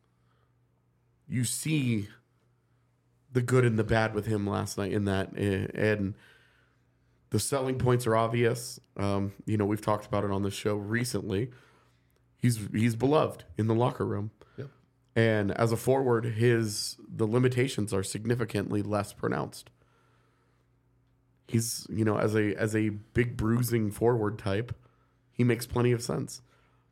you see the good and the bad with him last night in that. And the selling points are obvious. Um, you know, we've talked about it on the show recently. He's he's beloved in the locker room. Yep. And as a forward, his the limitations are significantly less pronounced. He's, you know, as a as a big bruising forward type, he makes plenty of sense.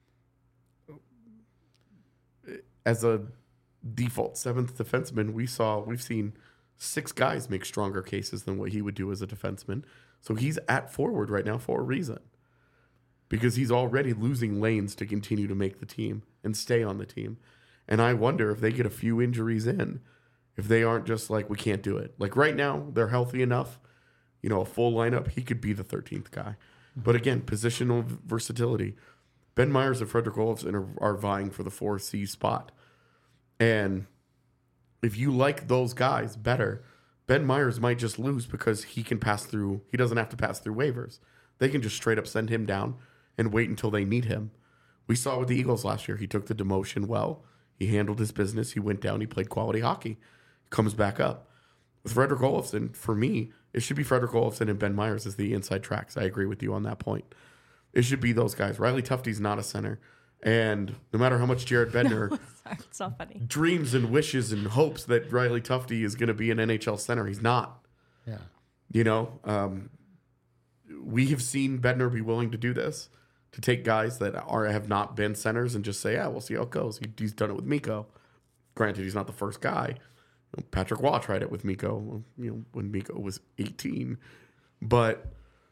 As a default seventh defenseman, we saw we've seen six guys make stronger cases than what he would do as a defenseman. So he's at forward right now for a reason. Because he's already losing lanes to continue to make the team and stay on the team. And I wonder if they get a few injuries in, if they aren't just like, we can't do it. Like right now, they're healthy enough. You know, a full lineup, he could be the thirteenth guy. But again, positional versatility. Ben Myers and Frederick Olofsson are, are vying for the four C spot. And if you like those guys better, Ben Myers might just lose because he can pass through. He doesn't have to pass through waivers. They can just straight up send him down and wait until they need him. We saw it with the Eagles last year. He took the demotion well. He handled his business. He went down. He played quality hockey. Comes back up. With Frederick Olofsson, for me, it should be Frederick Olofsson and Ben Myers as the inside tracks. I agree with you on that point. It should be those guys. Riley Tufte's not a center. And no matter how much Jared Bednar Sorry, it's not funny. dreams and wishes and hopes that Riley Tufte is going to be an N H L center, he's not. Yeah. You know, um, we have seen Bednar be willing to do this, to take guys that are have not been centers and just say, yeah, we'll see how it goes. He, he's done it with Mikko. Granted, he's not the first guy. You know, Patrick Waugh tried it with Mikko, you know, when Mikko was eighteen. But,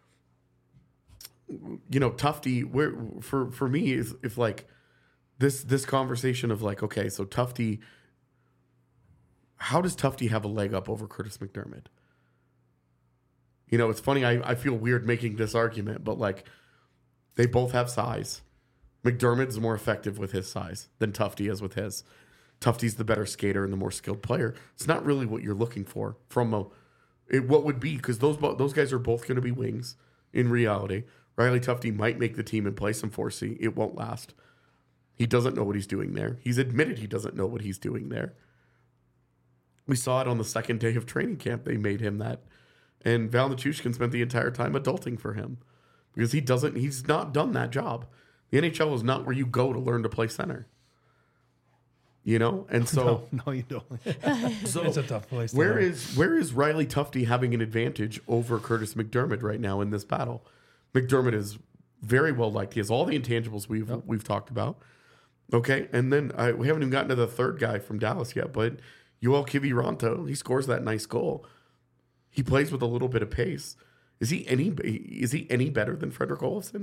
you know, Tufte, where for for me, is if like this this conversation of like, okay, so Tufte, how does Tufte have a leg up over Curtis McDermott? You know, it's funny. I, I feel weird making this argument, but like, they both have size. McDermott's more effective with his size than Tufte is with his. Tufte's the better skater and the more skilled player. It's not really what you're looking for from a it, what would be, because those those guys are both going to be wings in reality. Riley Tufte might make the team and play some four C. It won't last. He doesn't know what he's doing there. He's admitted he doesn't know what he's doing there. We saw it on the second day of training camp. They made him that. And Val Nichushkin spent the entire time adulting for him. Because he doesn't, he's not done that job. The N H L is not where you go to learn to play center. You know? And so No, no you don't. so It's a tough place to where learn. is where is Riley Tufte having an advantage over Curtis McDermott right now in this battle? McDermott is very well liked. He has all the intangibles we've Yep. we've talked about. Okay, and then I, we haven't even gotten to the third guy from Dallas yet, but Yoel Kiviranta, he scores that nice goal. He plays with a little bit of pace. Is he any is he any better than Frederick Olofsson?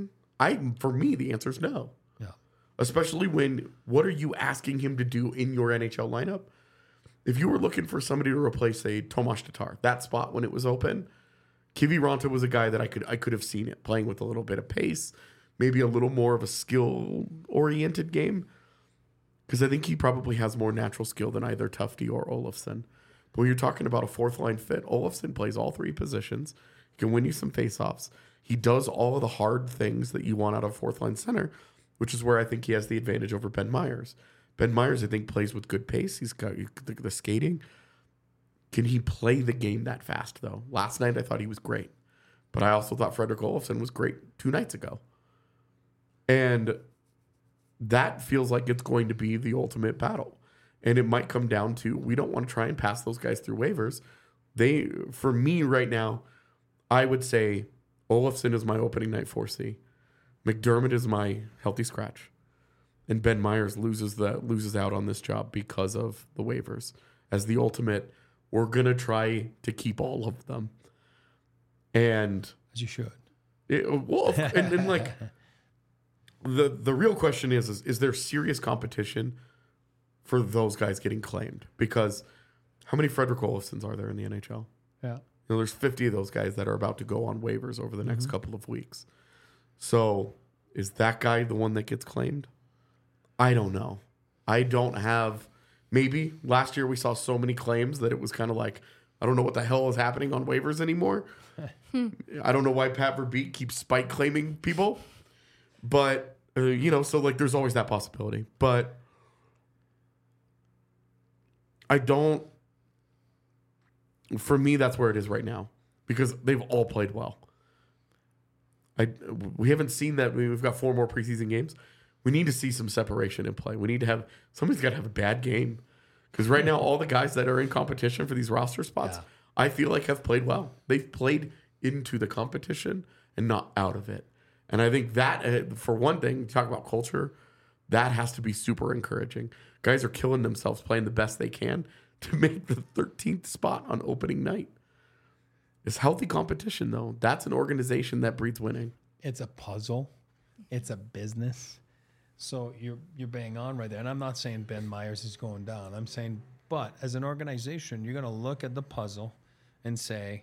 I for me, the answer is no. Yeah. Especially when, what are you asking him to do in your N H L lineup? If you were looking for somebody to replace, say, Tomas Tatar, that spot when it was open, Kiviranta was a guy that I could I could have seen it playing with a little bit of pace, maybe a little more of a skill-oriented game, because I think he probably has more natural skill than either Tufte or Olofsson. But when you're talking about a fourth-line fit, Olofsson plays all three positions. He can win you some face-offs. He does all of the hard things that you want out of a fourth-line center, which is where I think he has the advantage over Ben Myers. Ben Myers, I think, plays with good pace. He's got the, the skating. Can he play the game that fast, though? Last night, I thought he was great. But I also thought Fredrik Olofsson was great two nights ago. And that feels like it's going to be the ultimate battle. And it might come down to, we don't want to try and pass those guys through waivers. They, for me right now, I would say Olofsson is my opening night four C. McDermott is my healthy scratch. And Ben Myers loses the loses out on this job because of the waivers. As the ultimate, we're going to try to keep all of them. And As you should. It, well, and, and like the the real question is, is is there serious competition for those guys getting claimed? Because how many Fredrik Olofssons are there in the N H L? Yeah. You know, there's fifty of those guys that are about to go on waivers over the next mm-hmm. couple of weeks. So is that guy the one that gets claimed? I don't know. I don't have. Maybe last year we saw so many claims that it was kind of like, I don't know what the hell is happening on waivers anymore. I don't know why Pat Verbeek keeps spike claiming people. But, uh, you know, so like there's always that possibility. But I don't. For me, that's where it is right now. Because they've all played well. I We haven't seen that. We've got four more preseason games. We need to see some separation in play. We need to have, somebody's got to have a bad game. Because right now, all the guys that are in competition for these roster spots, yeah. I feel like have played well. They've played into the competition and not out of it. And I think that, uh, for one thing, talk about culture, that has to be super encouraging. Guys are killing themselves playing the best they can to make the thirteenth spot on opening night. It's healthy competition, though. That's an organization that breeds winning. It's a puzzle. It's a business. So you're you're bang on right there. And I'm not saying Ben Myers is going down. I'm saying, but as an organization, you're going to look at the puzzle and say,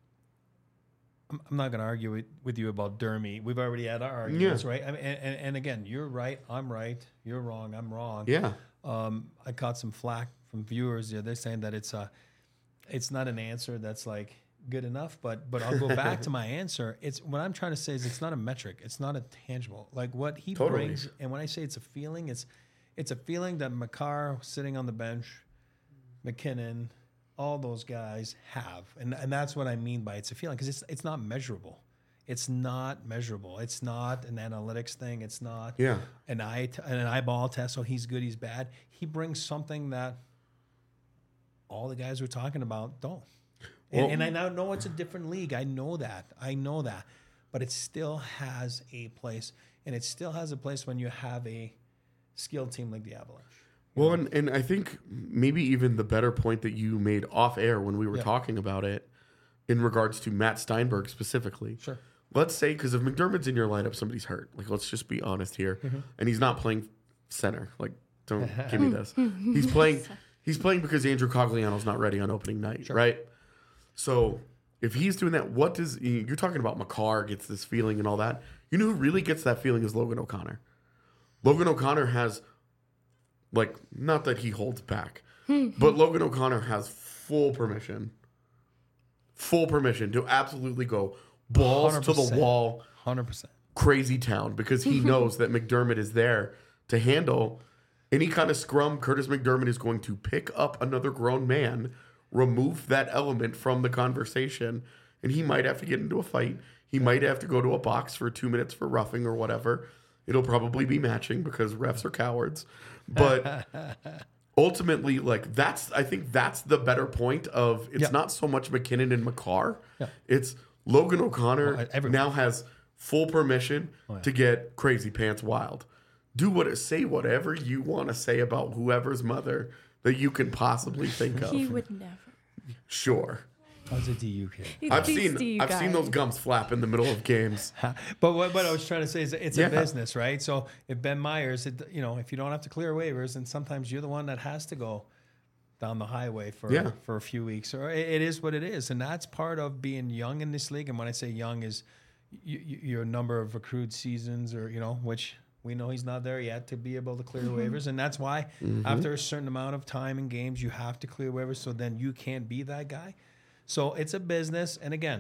I'm, I'm not going to argue with, with you about Dermy. We've already had our arguments, yeah. right? I mean, and, and, and again, you're right. I'm right. You're wrong. I'm wrong. Yeah. Um, I caught some flack from viewers. Yeah, they're saying that it's a, it's not an answer that's like good enough, but but I'll go back to my answer. It's what I'm trying to say is it's not a metric. It's not a tangible. Like what he totally. brings, and when I say it's a feeling, it's it's a feeling that Makar sitting on the bench, McKinnon, all those guys have, and and that's what I mean by it's a feeling because it's it's not measurable. It's not measurable. It's not an analytics thing. It's not yeah. an eye t- an eyeball test. So he's good, he's bad. He brings something that all the guys we're talking about don't. And, well, and I now know it's a different league. I know that. I know that. But it still has a place. And it still has a place when you have a skilled team like the Avalanche. Well, and, and I think maybe even the better point that you made off air when we were yeah. talking about it in regards to Matt Steinberg specifically. Sure. Let's say, because if McDermott's in your lineup, somebody's hurt. Like, let's just be honest here. Mm-hmm. And he's not playing center. Like, don't give me this. He's playing He's playing because Andrew Cogliano's not ready on opening night, sure. right? So if he's doing that, what does you're talking about? Makar gets this feeling and all that. You know who really gets that feeling is Logan O'Connor. Logan O'Connor has, like, not that he holds back, but Logan O'Connor has full permission, full permission to absolutely go balls one hundred percent to the wall, one hundred percent crazy town because he knows that McDermott is there to handle any kind of scrum. Curtis McDermott is going to pick up another grown man, remove that element from the conversation, and he might have to get into a fight. He might have to go to a box for two minutes for roughing or whatever. It'll probably be matching because refs are cowards. But ultimately, like that's I think that's the better point of it's yeah. not so much McKinnon and Makar. Yeah. It's Logan O'Connor well, now has full permission oh, yeah. to get crazy pants wild. Do what say whatever you want to say about whoever's mother that you can possibly think of. He would never. Sure. I was a D U kid. He's I've beast seen to you I've seen guys. those gums flap in the middle of games. But what, what I was trying to say is it's Yeah. a business, right? So if Ben Myers, it, you know, if you don't have to clear waivers, and sometimes you're the one that has to go down the highway for Yeah. for a few weeks, or it, it is what it is, and that's part of being young in this league. And when I say young, is you, you, your number of accrued seasons, or you know, which we know he's not there yet to be able to clear waivers, and that's why after a certain amount of time in games, you have to clear waivers. So then you can't be that guy. So it's a business, and again.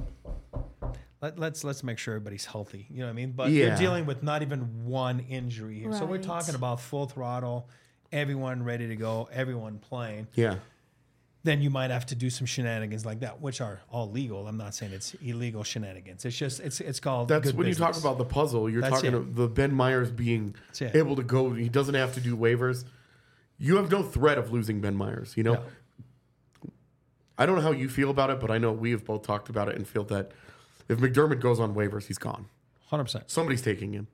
Let, let's let's make sure everybody's healthy. You know what I mean? But Yeah. you're dealing with not even one injury here. So we're Right. talking about full throttle, everyone ready to go, everyone playing. Yeah. Then you might have to do some shenanigans like that, which are all legal. I'm not saying it's illegal shenanigans. It's just it's it's called That's good when business. you talk about the puzzle, you're That's talking it. of the Ben Myers being That's it. able to go. He doesn't have to do waivers. You have no threat of losing Ben Myers. You know, Yeah. I don't know how you feel about it, but I know we have both talked about it and feel that if McDermott goes on waivers, he's gone. one hundred percent. Somebody's taking him.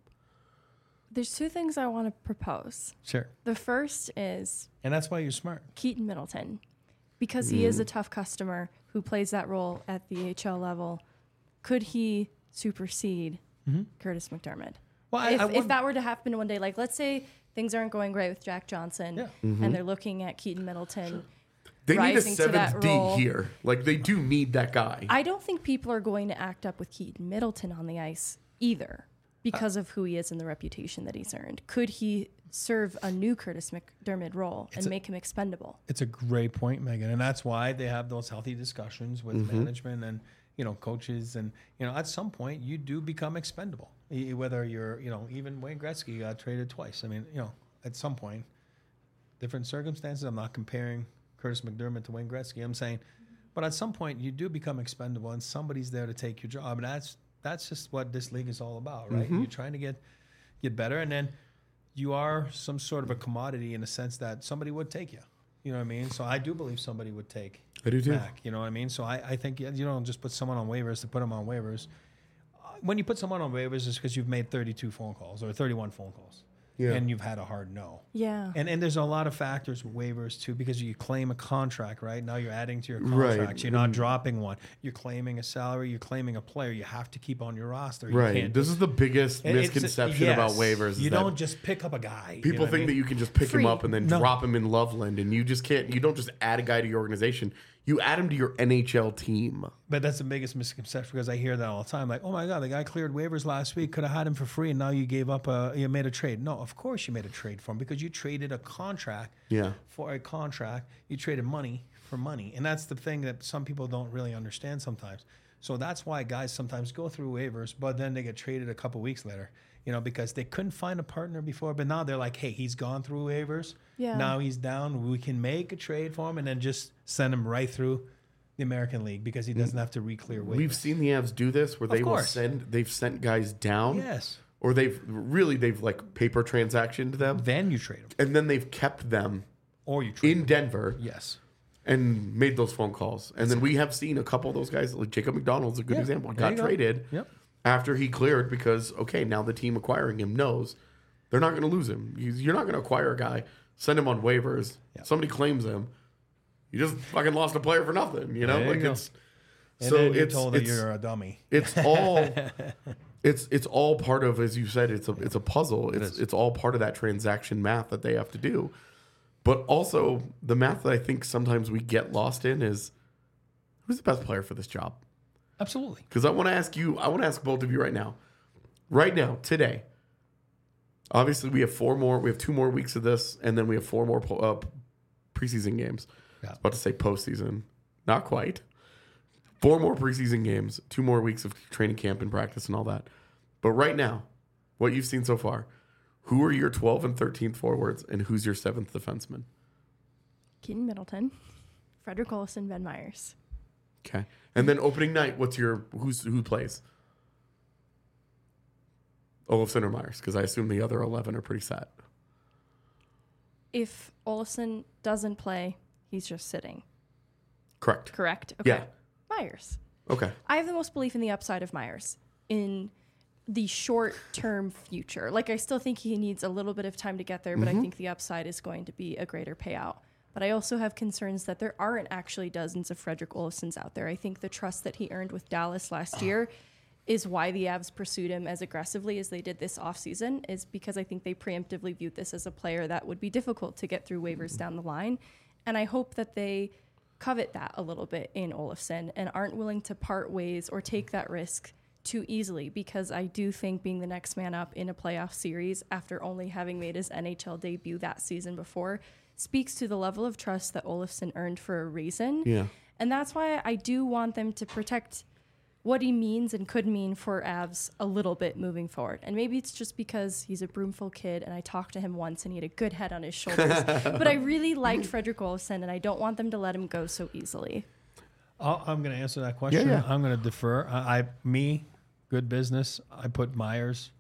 There's two things I want to propose. Sure. The first is And that's why you're smart. Keaton Middleton, because he is a tough customer who plays that role at the H L level. Could he supersede Curtis McDermott? Well, I, if, I if wouldn't- that were to happen one day, like let's say things aren't going great with Jack Johnson, Yeah. and they're looking at Keaton Middleton. They need a rising to that seventh D role. here. Like they do need that guy. I don't think people are going to act up with Keaton Middleton on the ice either because of who he is and the reputation that he's earned. Could he serve a new Curtis McDermott role and a- make him expendable? It's a great point, Megan, and that's why they have those healthy discussions with Mm-hmm. management and you know coaches, and you know at some point you do become expendable. E- Whether you're you know even Wayne Gretzky got traded twice. I mean you know at some point, different circumstances. I'm not comparing Curtis McDermott to Wayne Gretzky. I'm saying, but at some point you do become expendable, and somebody's there to take your job, and that's that's just what this league is all about, right? You're trying to get get better, and then you are some sort of a commodity in the sense that somebody would take you. You know what I mean? So I do believe somebody would take I do too. back. You know what I mean? So I, I think you don't just put someone on waivers to put them on waivers. Uh, When you put someone on waivers, it's because you've made thirty-two phone calls or thirty-one phone calls, Yeah. and you've had a hard no. Yeah. And and there's a lot of factors with waivers too, because you claim a contract, right? Now you're adding to your Right. contract. You're not dropping one. You're claiming a salary. You're claiming a player. You have to keep on your roster. You Right. can't This is the biggest it- it's- misconception about yes. waivers. is You that don't just pick up a guy. you People know what I think mean? that you can just pick Free. him up and then No. drop him in Loveland, and you just can't. You don't just add a guy to your organization. You add him to your N H L team. But that's the biggest misconception, because I hear that all the time. Like, oh my God, the guy cleared waivers last week. Could have had him for free, and now you gave up a, you made a trade. No, of course you made a trade for him, because you traded a contract Yeah. for a contract. You traded money for money. And that's the thing that some people don't really understand sometimes. So that's why guys sometimes go through waivers, but then they get traded a couple weeks later, you know, because they couldn't find a partner before. But now they're like, hey, he's gone through waivers. Yeah. Now he's down. We can make a trade for him and then just send him right through the American League, because he doesn't have to re-clear waivers. We've seen the Avs do this where they will course. send. They've sent guys down. Yes. Or they've really they've like paper transactioned them, Then you trade him. and then they've kept them Or you trade in him. Denver Yes. and made those phone calls. And then we have seen a couple of those guys, like Jacob McDonald's a good Yeah, example, there got you go. traded Yep. after he cleared because, okay, now the team acquiring him knows they're not going to lose him. You- You're not going to acquire a guy, send him on waivers, Yeah. somebody claims him. You just fucking lost a player for nothing, you know? There you like go. it's And so then you're it's told that it's, you're a dummy. it's all it's it's all part of, as you said, it's a it's a puzzle. It's is. it's all part of that transaction math that they have to do. But also the math that I think sometimes we get lost in is who's the best player for this job? Absolutely. Because I want to ask you, I want to ask both of you right now. Right now, today. Obviously, we have four more, we have two more weeks of this, and then we have four more po- uh, preseason games. Yeah. I was about to say postseason. Not quite. Four more preseason games, two more weeks of training camp and practice and all that. But right now, what you've seen so far, who are your twelfth and thirteenth forwards, and who's your seventh defenseman? Keaton Middleton, Frederick Olsen, Ben Myers. Okay. And then opening night, what's your, who's who plays? Olofsson or Myers? Because I assume the other eleven are pretty set. If Olsen doesn't play, he's just sitting. Correct. Correct? Okay. Yeah. Myers. Okay. I have the most belief in the upside of Myers in the short term future. Like, I still think he needs a little bit of time to get there, but I think the upside is going to be a greater payout But I also have concerns that there aren't actually dozens of Frederick Olofssons out there. I think the trust that he earned with Dallas last year is why the Avs pursued him as aggressively as they did this offseason, is because I think they preemptively viewed this as a player that would be difficult to get through waivers down the line. And I hope that they covet that a little bit in Olofsson and aren't willing to part ways or take that risk too easily, because I do think being the next man up in a playoff series after only having made his N H L debut that season before speaks to the level of trust that Olofsson earned for a reason. Yeah. And that's why I do want them to protect what he means and could mean for Avs a little bit moving forward. And maybe it's just because he's a Broomfield kid and I talked to him once and he had a good head on his shoulders. But I really liked Frederick Olofsson and I don't want them to let him go so easily. I'll, I'm going to answer that question. Yeah, yeah. I'm going to defer. I, I, me, good business. I put Myers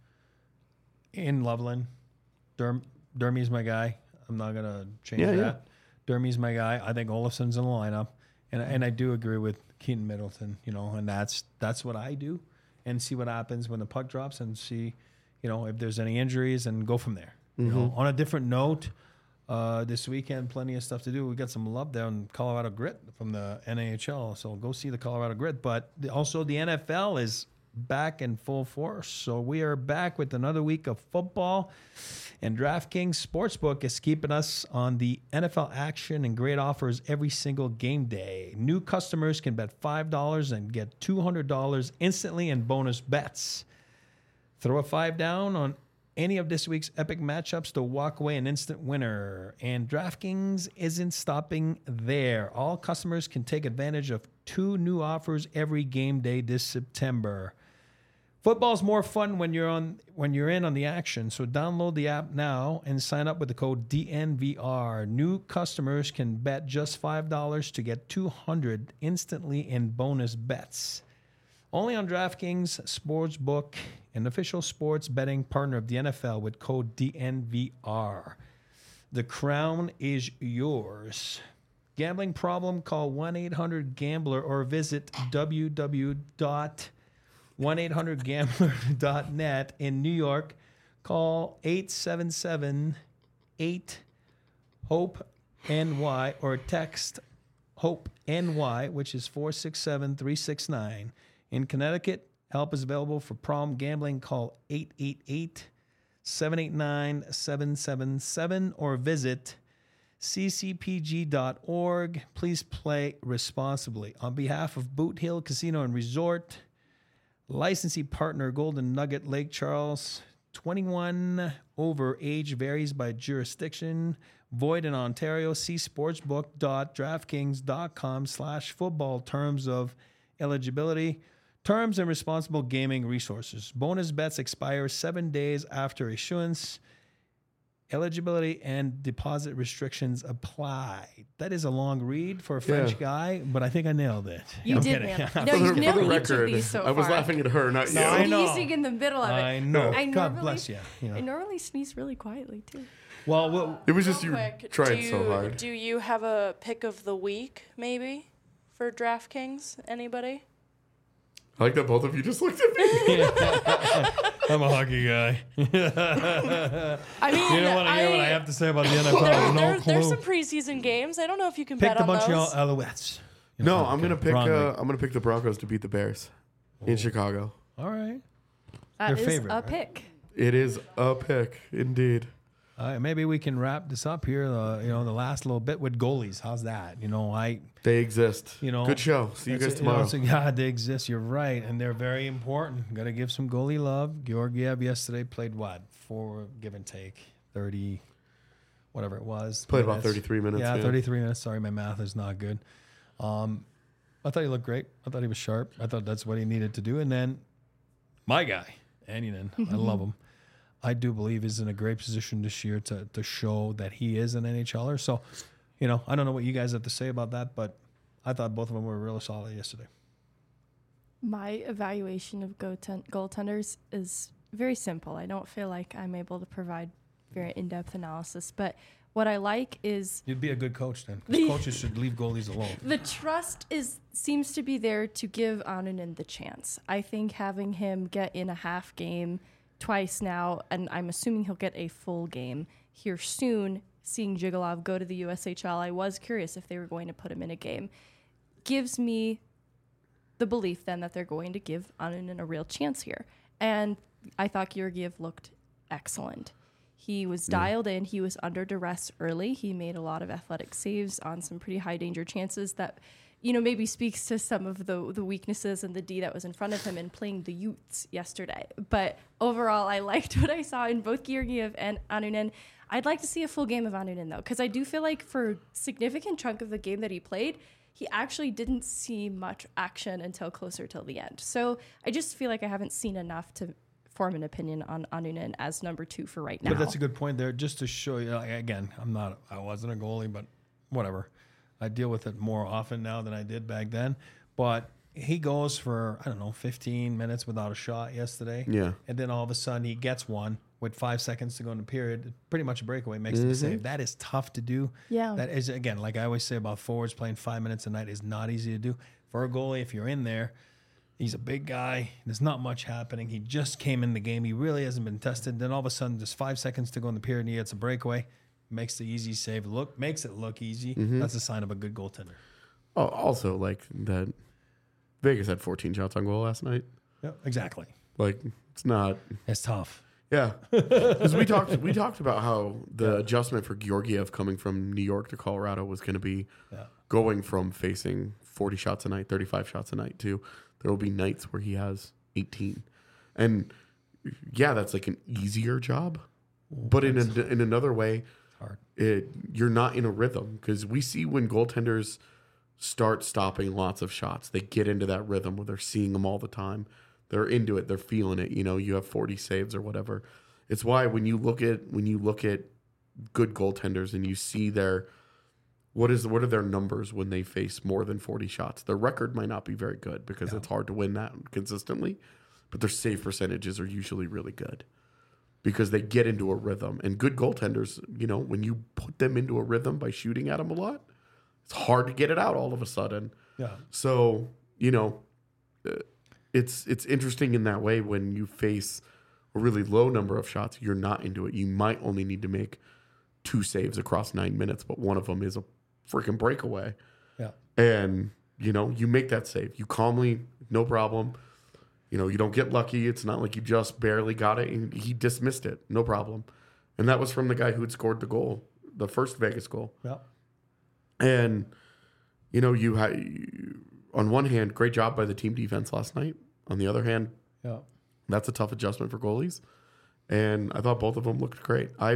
in Loveland. Derm, Dermy's my guy. I'm not going to change Yeah, that. Yeah. Dermy's my guy. I think Olofsson's in the lineup. And, and I do agree with Keaton Middleton, you know, and that's that's what I do, and see what happens when the puck drops, and see, you know, if there's any injuries, and go from there. Mm-hmm. You know, on a different note, uh, this weekend, plenty of stuff to do. We got some love there in Colorado Grit from the N A H L, so go see the Colorado Grit. But the, also the N F L is back in full force, so we are back with another week of football. And DraftKings Sportsbook is keeping us on the N F L action and great offers every single game day. New customers can bet five dollars and get two hundred dollars instantly in bonus bets. Throw a five down on any of this week's epic matchups to walk away an instant winner. And DraftKings isn't stopping there. All customers can take advantage of two new offers every game day this September. Football's more fun when you're on when you're in on the action. So download the app now and sign up with the code D N V R. New customers can bet just five dollars to get two hundred dollars instantly in bonus bets. Only on DraftKings Sportsbook, an official sports betting partner of the N F L, with code D N V R. The crown is yours. Gambling problem? Call one eight hundred gambler or visit w w w dot one eight hundred gambler dot net. In New York, call eight seven seven eight hope N Y or text HOPE-N Y, which is four six seven three six nine. In Connecticut, help is available for problem gambling. Call eight eight eight seven eight nine seven seven seven or visit c c p g dot org. Please play responsibly. On behalf of Boot Hill Casino and Resort, licensee partner Golden Nugget Lake Charles, twenty-one over, age varies by jurisdiction, void in Ontario. See sportsbook dot draftkings dot com slash football. Terms of eligibility, terms and responsible gaming resources. Bonus bets expire seven days after issuance. Eligibility and deposit restrictions apply. That is a long read for a French Yeah. guy, but I think I nailed it. You I'm did kidding. nail it. Yeah. No, For you've the, nailed for the each of record, these so I was far. laughing at her, not No, you. I know. Sneezing in the middle of it. I know. I God normally- bless you. you know. I normally sneeze really quietly too. Well, well, It was just Real you quick, tried do you, so hard. Do you have a pick of the week, maybe, for DraftKings? Anybody? I like that both of you just looked at me. I'm a hockey guy. I mean, You don't want to hear I, what I have to say about the N F L. There, no there, clue. there's some preseason games. I don't know if you can Pick bet the on Montreal those. Alouettes. You No, know, I'm okay. gonna pick. Wrong Uh, league. I'm gonna pick the Broncos to beat the Bears in Chicago. All right. That Their is favorite, a right? pick. It is a pick, indeed. All right. Maybe we can wrap this up here. Uh, you know, the last little bit with goalies. How's that? You know, I. They exist. You know, good show. See you That's guys it, you know, tomorrow. it's like, God, they exist. You're right, and they're very important. Got to give some goalie love. Georgiev yesterday played what? Four give and take, thirty, whatever it was. Played about minutes. thirty-three minutes. Yeah, yeah. thirty-three minutes. Sorry, my math is not good. Um, I thought he looked great. I thought he was sharp. I thought that's what he needed to do. And then my guy, Annunen, I love him. I do believe is in a great position this year to to show that he is an N H L er. So, you know, I don't know what you guys have to say about that, but I thought both of them were really solid yesterday. My evaluation of goalten- goaltenders is very simple. I don't feel like I'm able to provide very in-depth analysis, but what I like is You'd be a good coach then, because coaches should leave goalies alone. the trust is seems to be there to give Annunen the chance. I think having him get in a half game twice now, and I'm assuming he'll get a full game here soon, seeing Jigalov go to the U S H L, I was curious if they were going to put him in a game. Gives me the belief then that they're going to give Annunen a real chance here. And I thought Georgiev looked excellent. He was dialed in. He was under duress early. He made a lot of athletic saves on some pretty high danger chances that, you know, maybe speaks to some of the the weaknesses and the D that was in front of him in playing the Utes yesterday. But overall, I liked what I saw in both Georgiev and Annunen. I'd like to see a full game of Annunen, though, because I do feel like for a significant chunk of the game that he played, he actually didn't see much action until closer till the end. So I just feel like I haven't seen enough to form an opinion on Annunen as number two for right now. But that's a good point there. Just to show you, like, again, I'm not, I wasn't a goalie, but whatever. I deal with it more often now than I did back then. But he goes for, I don't know, fifteen minutes without a shot yesterday. Yeah. And then all of a sudden he gets one with five seconds to go in the period. Pretty much a breakaway, makes Mm-hmm. the save. That is tough to do. Yeah. That is, again, like I always say about forwards, playing five minutes a night is not easy to do. For a goalie, if you're in there, he's a big guy. There's not much happening. He just came in the game. He really hasn't been tested. Then all of a sudden, there's five seconds to go in the period, and he gets a breakaway. Makes the easy save look, makes it look easy. Mm-hmm. That's a sign of a good goaltender. Oh, also, like that, Vegas had fourteen shots on goal last night. Yeah, exactly. Like it's not. It's tough. Yeah, because we talked we talked about how the adjustment for Georgiev coming from New York to Colorado was going to be Yeah. going from facing forty shots a night, thirty-five shots a night to there will be nights where he has eighteen, and yeah, that's like an easier job, but in a, in another way, Hard. it you're not in a rhythm because we see when goaltenders start stopping lots of shots, they get into that rhythm where they're seeing them all the time. They're into it. They're feeling it. You know, you have forty saves or whatever. It's why when you look at when you look at good goaltenders and you see their what is what are their numbers when they face more than forty shots? Their record might not be very good because Yeah. it's hard to win that consistently, but their save percentages are usually really good because they get into a rhythm. And good goaltenders, you know, when you put them into a rhythm by shooting at them a lot, it's hard to get it out all of a sudden. Yeah. So, you know, uh, it's it's interesting in that way when you face a really low number of shots, you're not into it. You might only need to make two saves across nine minutes, but one of them is a freaking breakaway. Yeah. And, you know, you make that save. You calmly, no problem. You know, you don't get lucky. It's not like you just barely got it. And he dismissed it. No problem. And that was from the guy who had scored the goal, the first Vegas goal. Yeah. And, you know, you had, on one hand, great job by the team defense last night. On the other hand, Yeah. that's a tough adjustment for goalies. And I thought both of them looked great. I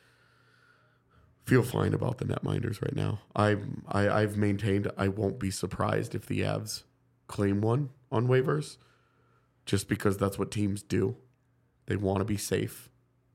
feel fine about the netminders right now. I, I, I've maintained I won't be surprised if the Avs claim one on waivers just because that's what teams do. They want to be safe.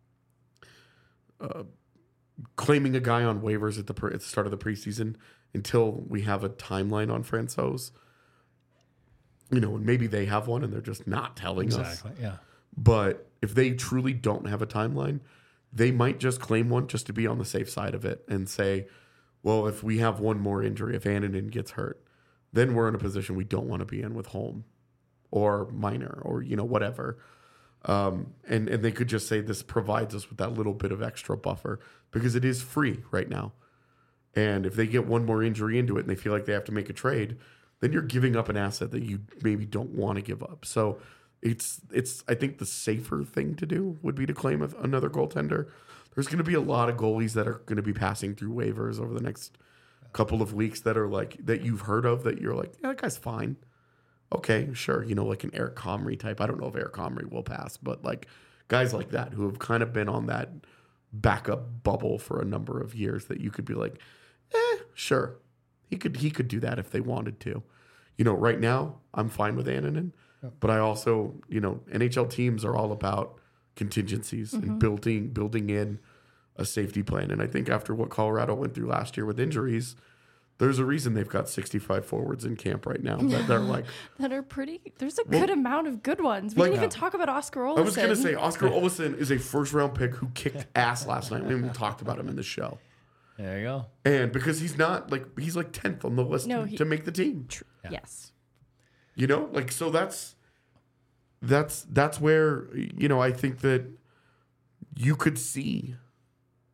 Uh, claiming a guy on waivers at the, pre- at the start of the preseason until we have a timeline on Francouz, you know, and maybe they have one and they're just not telling us. Exactly. Yeah. But if they truly don't have a timeline, they might just claim one just to be on the safe side of it and say, well, if we have one more injury, if Annunen gets hurt, then we're in a position we don't want to be in with Holm or Minor or, you know, whatever. Um, and, and they could just say this provides us with that little bit of extra buffer because it is free right now. And if they get one more injury into it and they feel like they have to make a trade, then you're giving up an asset that you maybe don't want to give up. So it's, it's I think the safer thing to do would be to claim a, another goaltender. There's going to be a lot of goalies that are going to be passing through waivers over the next couple of weeks that are like, that you've heard of that you're like, yeah, that guy's fine. Okay, sure. You know, like an Eric Comrie type. I don't know if Eric Comrie will pass, but like guys like that who have kind of been on that backup bubble for a number of years that you could be like, eh, sure. He could he could do that if they wanted to. You know, right now, I'm fine with Annunen, Yep. but I also, you know, N H L teams are all about contingencies Mm-hmm. and building building in a safety plan. And I think after what Colorado went through last year with injuries, there's a reason they've got sixty-five forwards in camp right now that they're like, That are pretty. There's a Well, good amount of good ones. We like- didn't even talk about Oscar Olsen. I was going to say Oscar Olsen is a first round pick who kicked ass last night. We haven't even talked about him in the show. There you go. And because he's not like, he's like tenth on the list No, to, he- to make the team. Tr- Yeah. Yes. You know, like, so that's, that's, that's where, you know, I think that you could see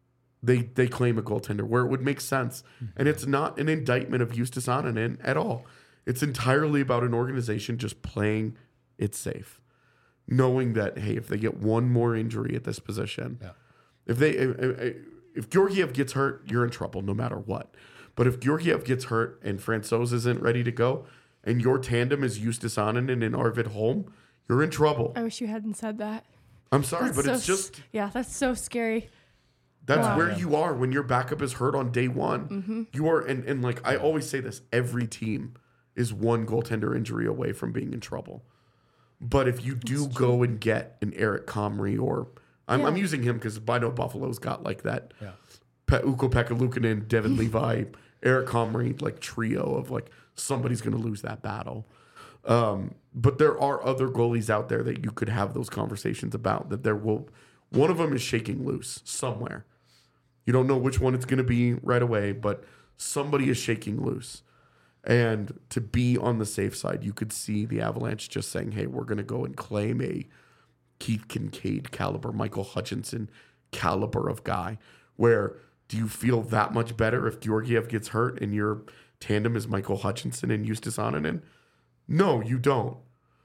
they they claim a goaltender where it would make sense. And it's not an indictment of Justus Ananen at all. It's entirely about an organization just playing it safe, knowing that, hey, if they get one more injury at this position, Yeah. if they if, if Georgiev gets hurt, you're in trouble no matter what. But if Georgiev gets hurt and Francouz isn't ready to go, and your tandem is Justus Ananen and Arvid Holm, you're in trouble. I wish you hadn't said that. I'm sorry, That's but so it's just... s- yeah, that's so scary. That's Wow. where Yeah. you are when your backup is hurt on day one. Mm-hmm. You are, and, and like I always say this, every team is one goaltender injury away from being in trouble. But if you do go and get an Eric Comrie, or I'm, Yeah. I'm using him because I know Buffalo's got like that Yeah. Pe- Ukko Pekka Luukkonen, Devin Levi, Eric Comrie, like trio of like somebody's going to lose that battle. Um, but there are other goalies out there that you could have those conversations about. That there will, one of them is shaking loose somewhere. You don't know which one it's going to be right away, but somebody is shaking loose. And to be on the safe side, you could see the Avalanche just saying, "Hey, we're going to go and claim a Keith Kincaid caliber, Michael Hutchinson caliber of guy." Where do you feel that much better if Georgiev gets hurt and your tandem is Michael Hutchinson and Justus Ananen? No, you don't.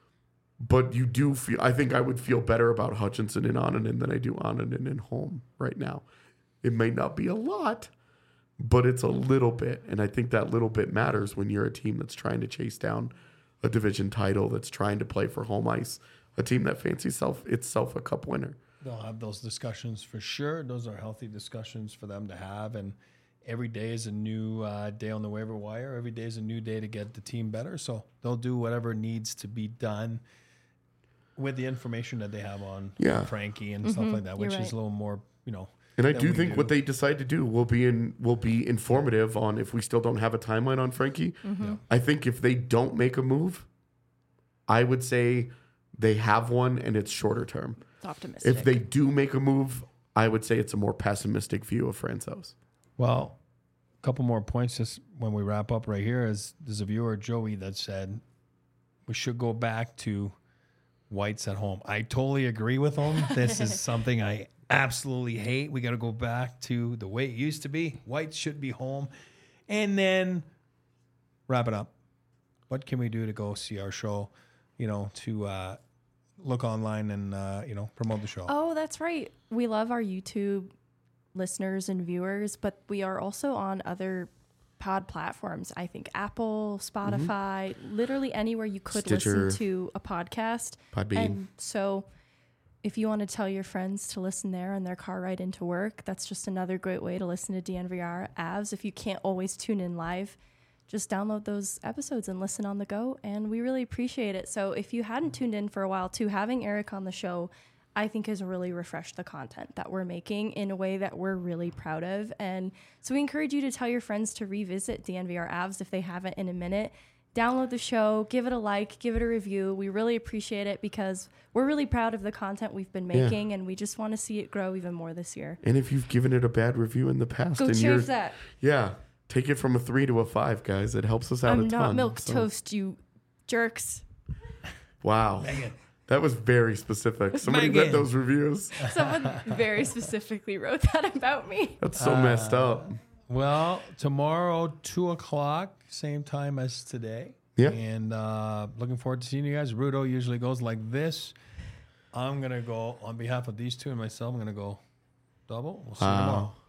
But you do feel, I think I would feel better about Hutchinson and Ananen than I do Ananen and Holm right now. It may not be a lot, but it's a little bit. And I think that little bit matters when you're a team that's trying to chase down a division title, that's trying to play for home ice, a team that fancies self, itself a cup winner. They'll have those discussions for sure. Those are healthy discussions for them to have. And every day is a new uh, day on the waiver wire. Every day is a new day to get the team better. So they'll do whatever needs to be done with the information that they have on Yeah. Frankie and stuff like that, You're which is right. a little more, you know. And I than do we think what they decide to do will be in will be informative on if we still don't have a timeline on Frankie. Mm-hmm. I think if they don't make a move, I would say they have one and it's shorter term. It's optimistic. If they do make a move, I would say it's a more pessimistic view of Francouz. Well, a couple more points just when we wrap up right here is there's a viewer, Joey, that said we should go back to Whites at home. I totally agree with him. This is something I absolutely hate. We got to go back to the way it used to be. Whites should be home. And then wrap it up. What can we do to go see our show, you know, to uh, look online and, uh, you know, promote the show? Oh, that's right. We love our YouTube listeners and viewers, but we are also on other pod platforms. I think Apple, Spotify, literally anywhere you could Stitcher. listen to a podcast. Podbean. And so if you want to tell your friends to listen there on their car ride into work, that's just another great way to listen to D N V R Avs. If you can't always tune in live, just download those episodes and listen on the go. And we really appreciate it. So if you hadn't tuned in for a while too, having Eric on the show, I think has really refreshed the content that we're making in a way that we're really proud of. And so we encourage you to tell your friends to revisit D N V R Avs if they haven't in a minute. Download the show, give it a like, give it a review. We really appreciate it because we're really proud of the content we've been Yeah. making and we just want to see it grow even more this year. And if you've given it a bad review in the past, Go and you're change that. yeah, take it from a three to a five, guys. It helps us out I'm a ton. not milk So- toast, you jerks. Wow, Megan. that was very specific. Somebody Megan. read those reviews. Someone very specifically wrote that about me. That's so messed up. Well, tomorrow, two o'clock, same time as today. Yeah. And uh, looking forward to seeing you guys. Rudo usually goes like this. I'm going to go, on behalf of these two and myself, I'm going to go double. We'll see you Wow. tomorrow.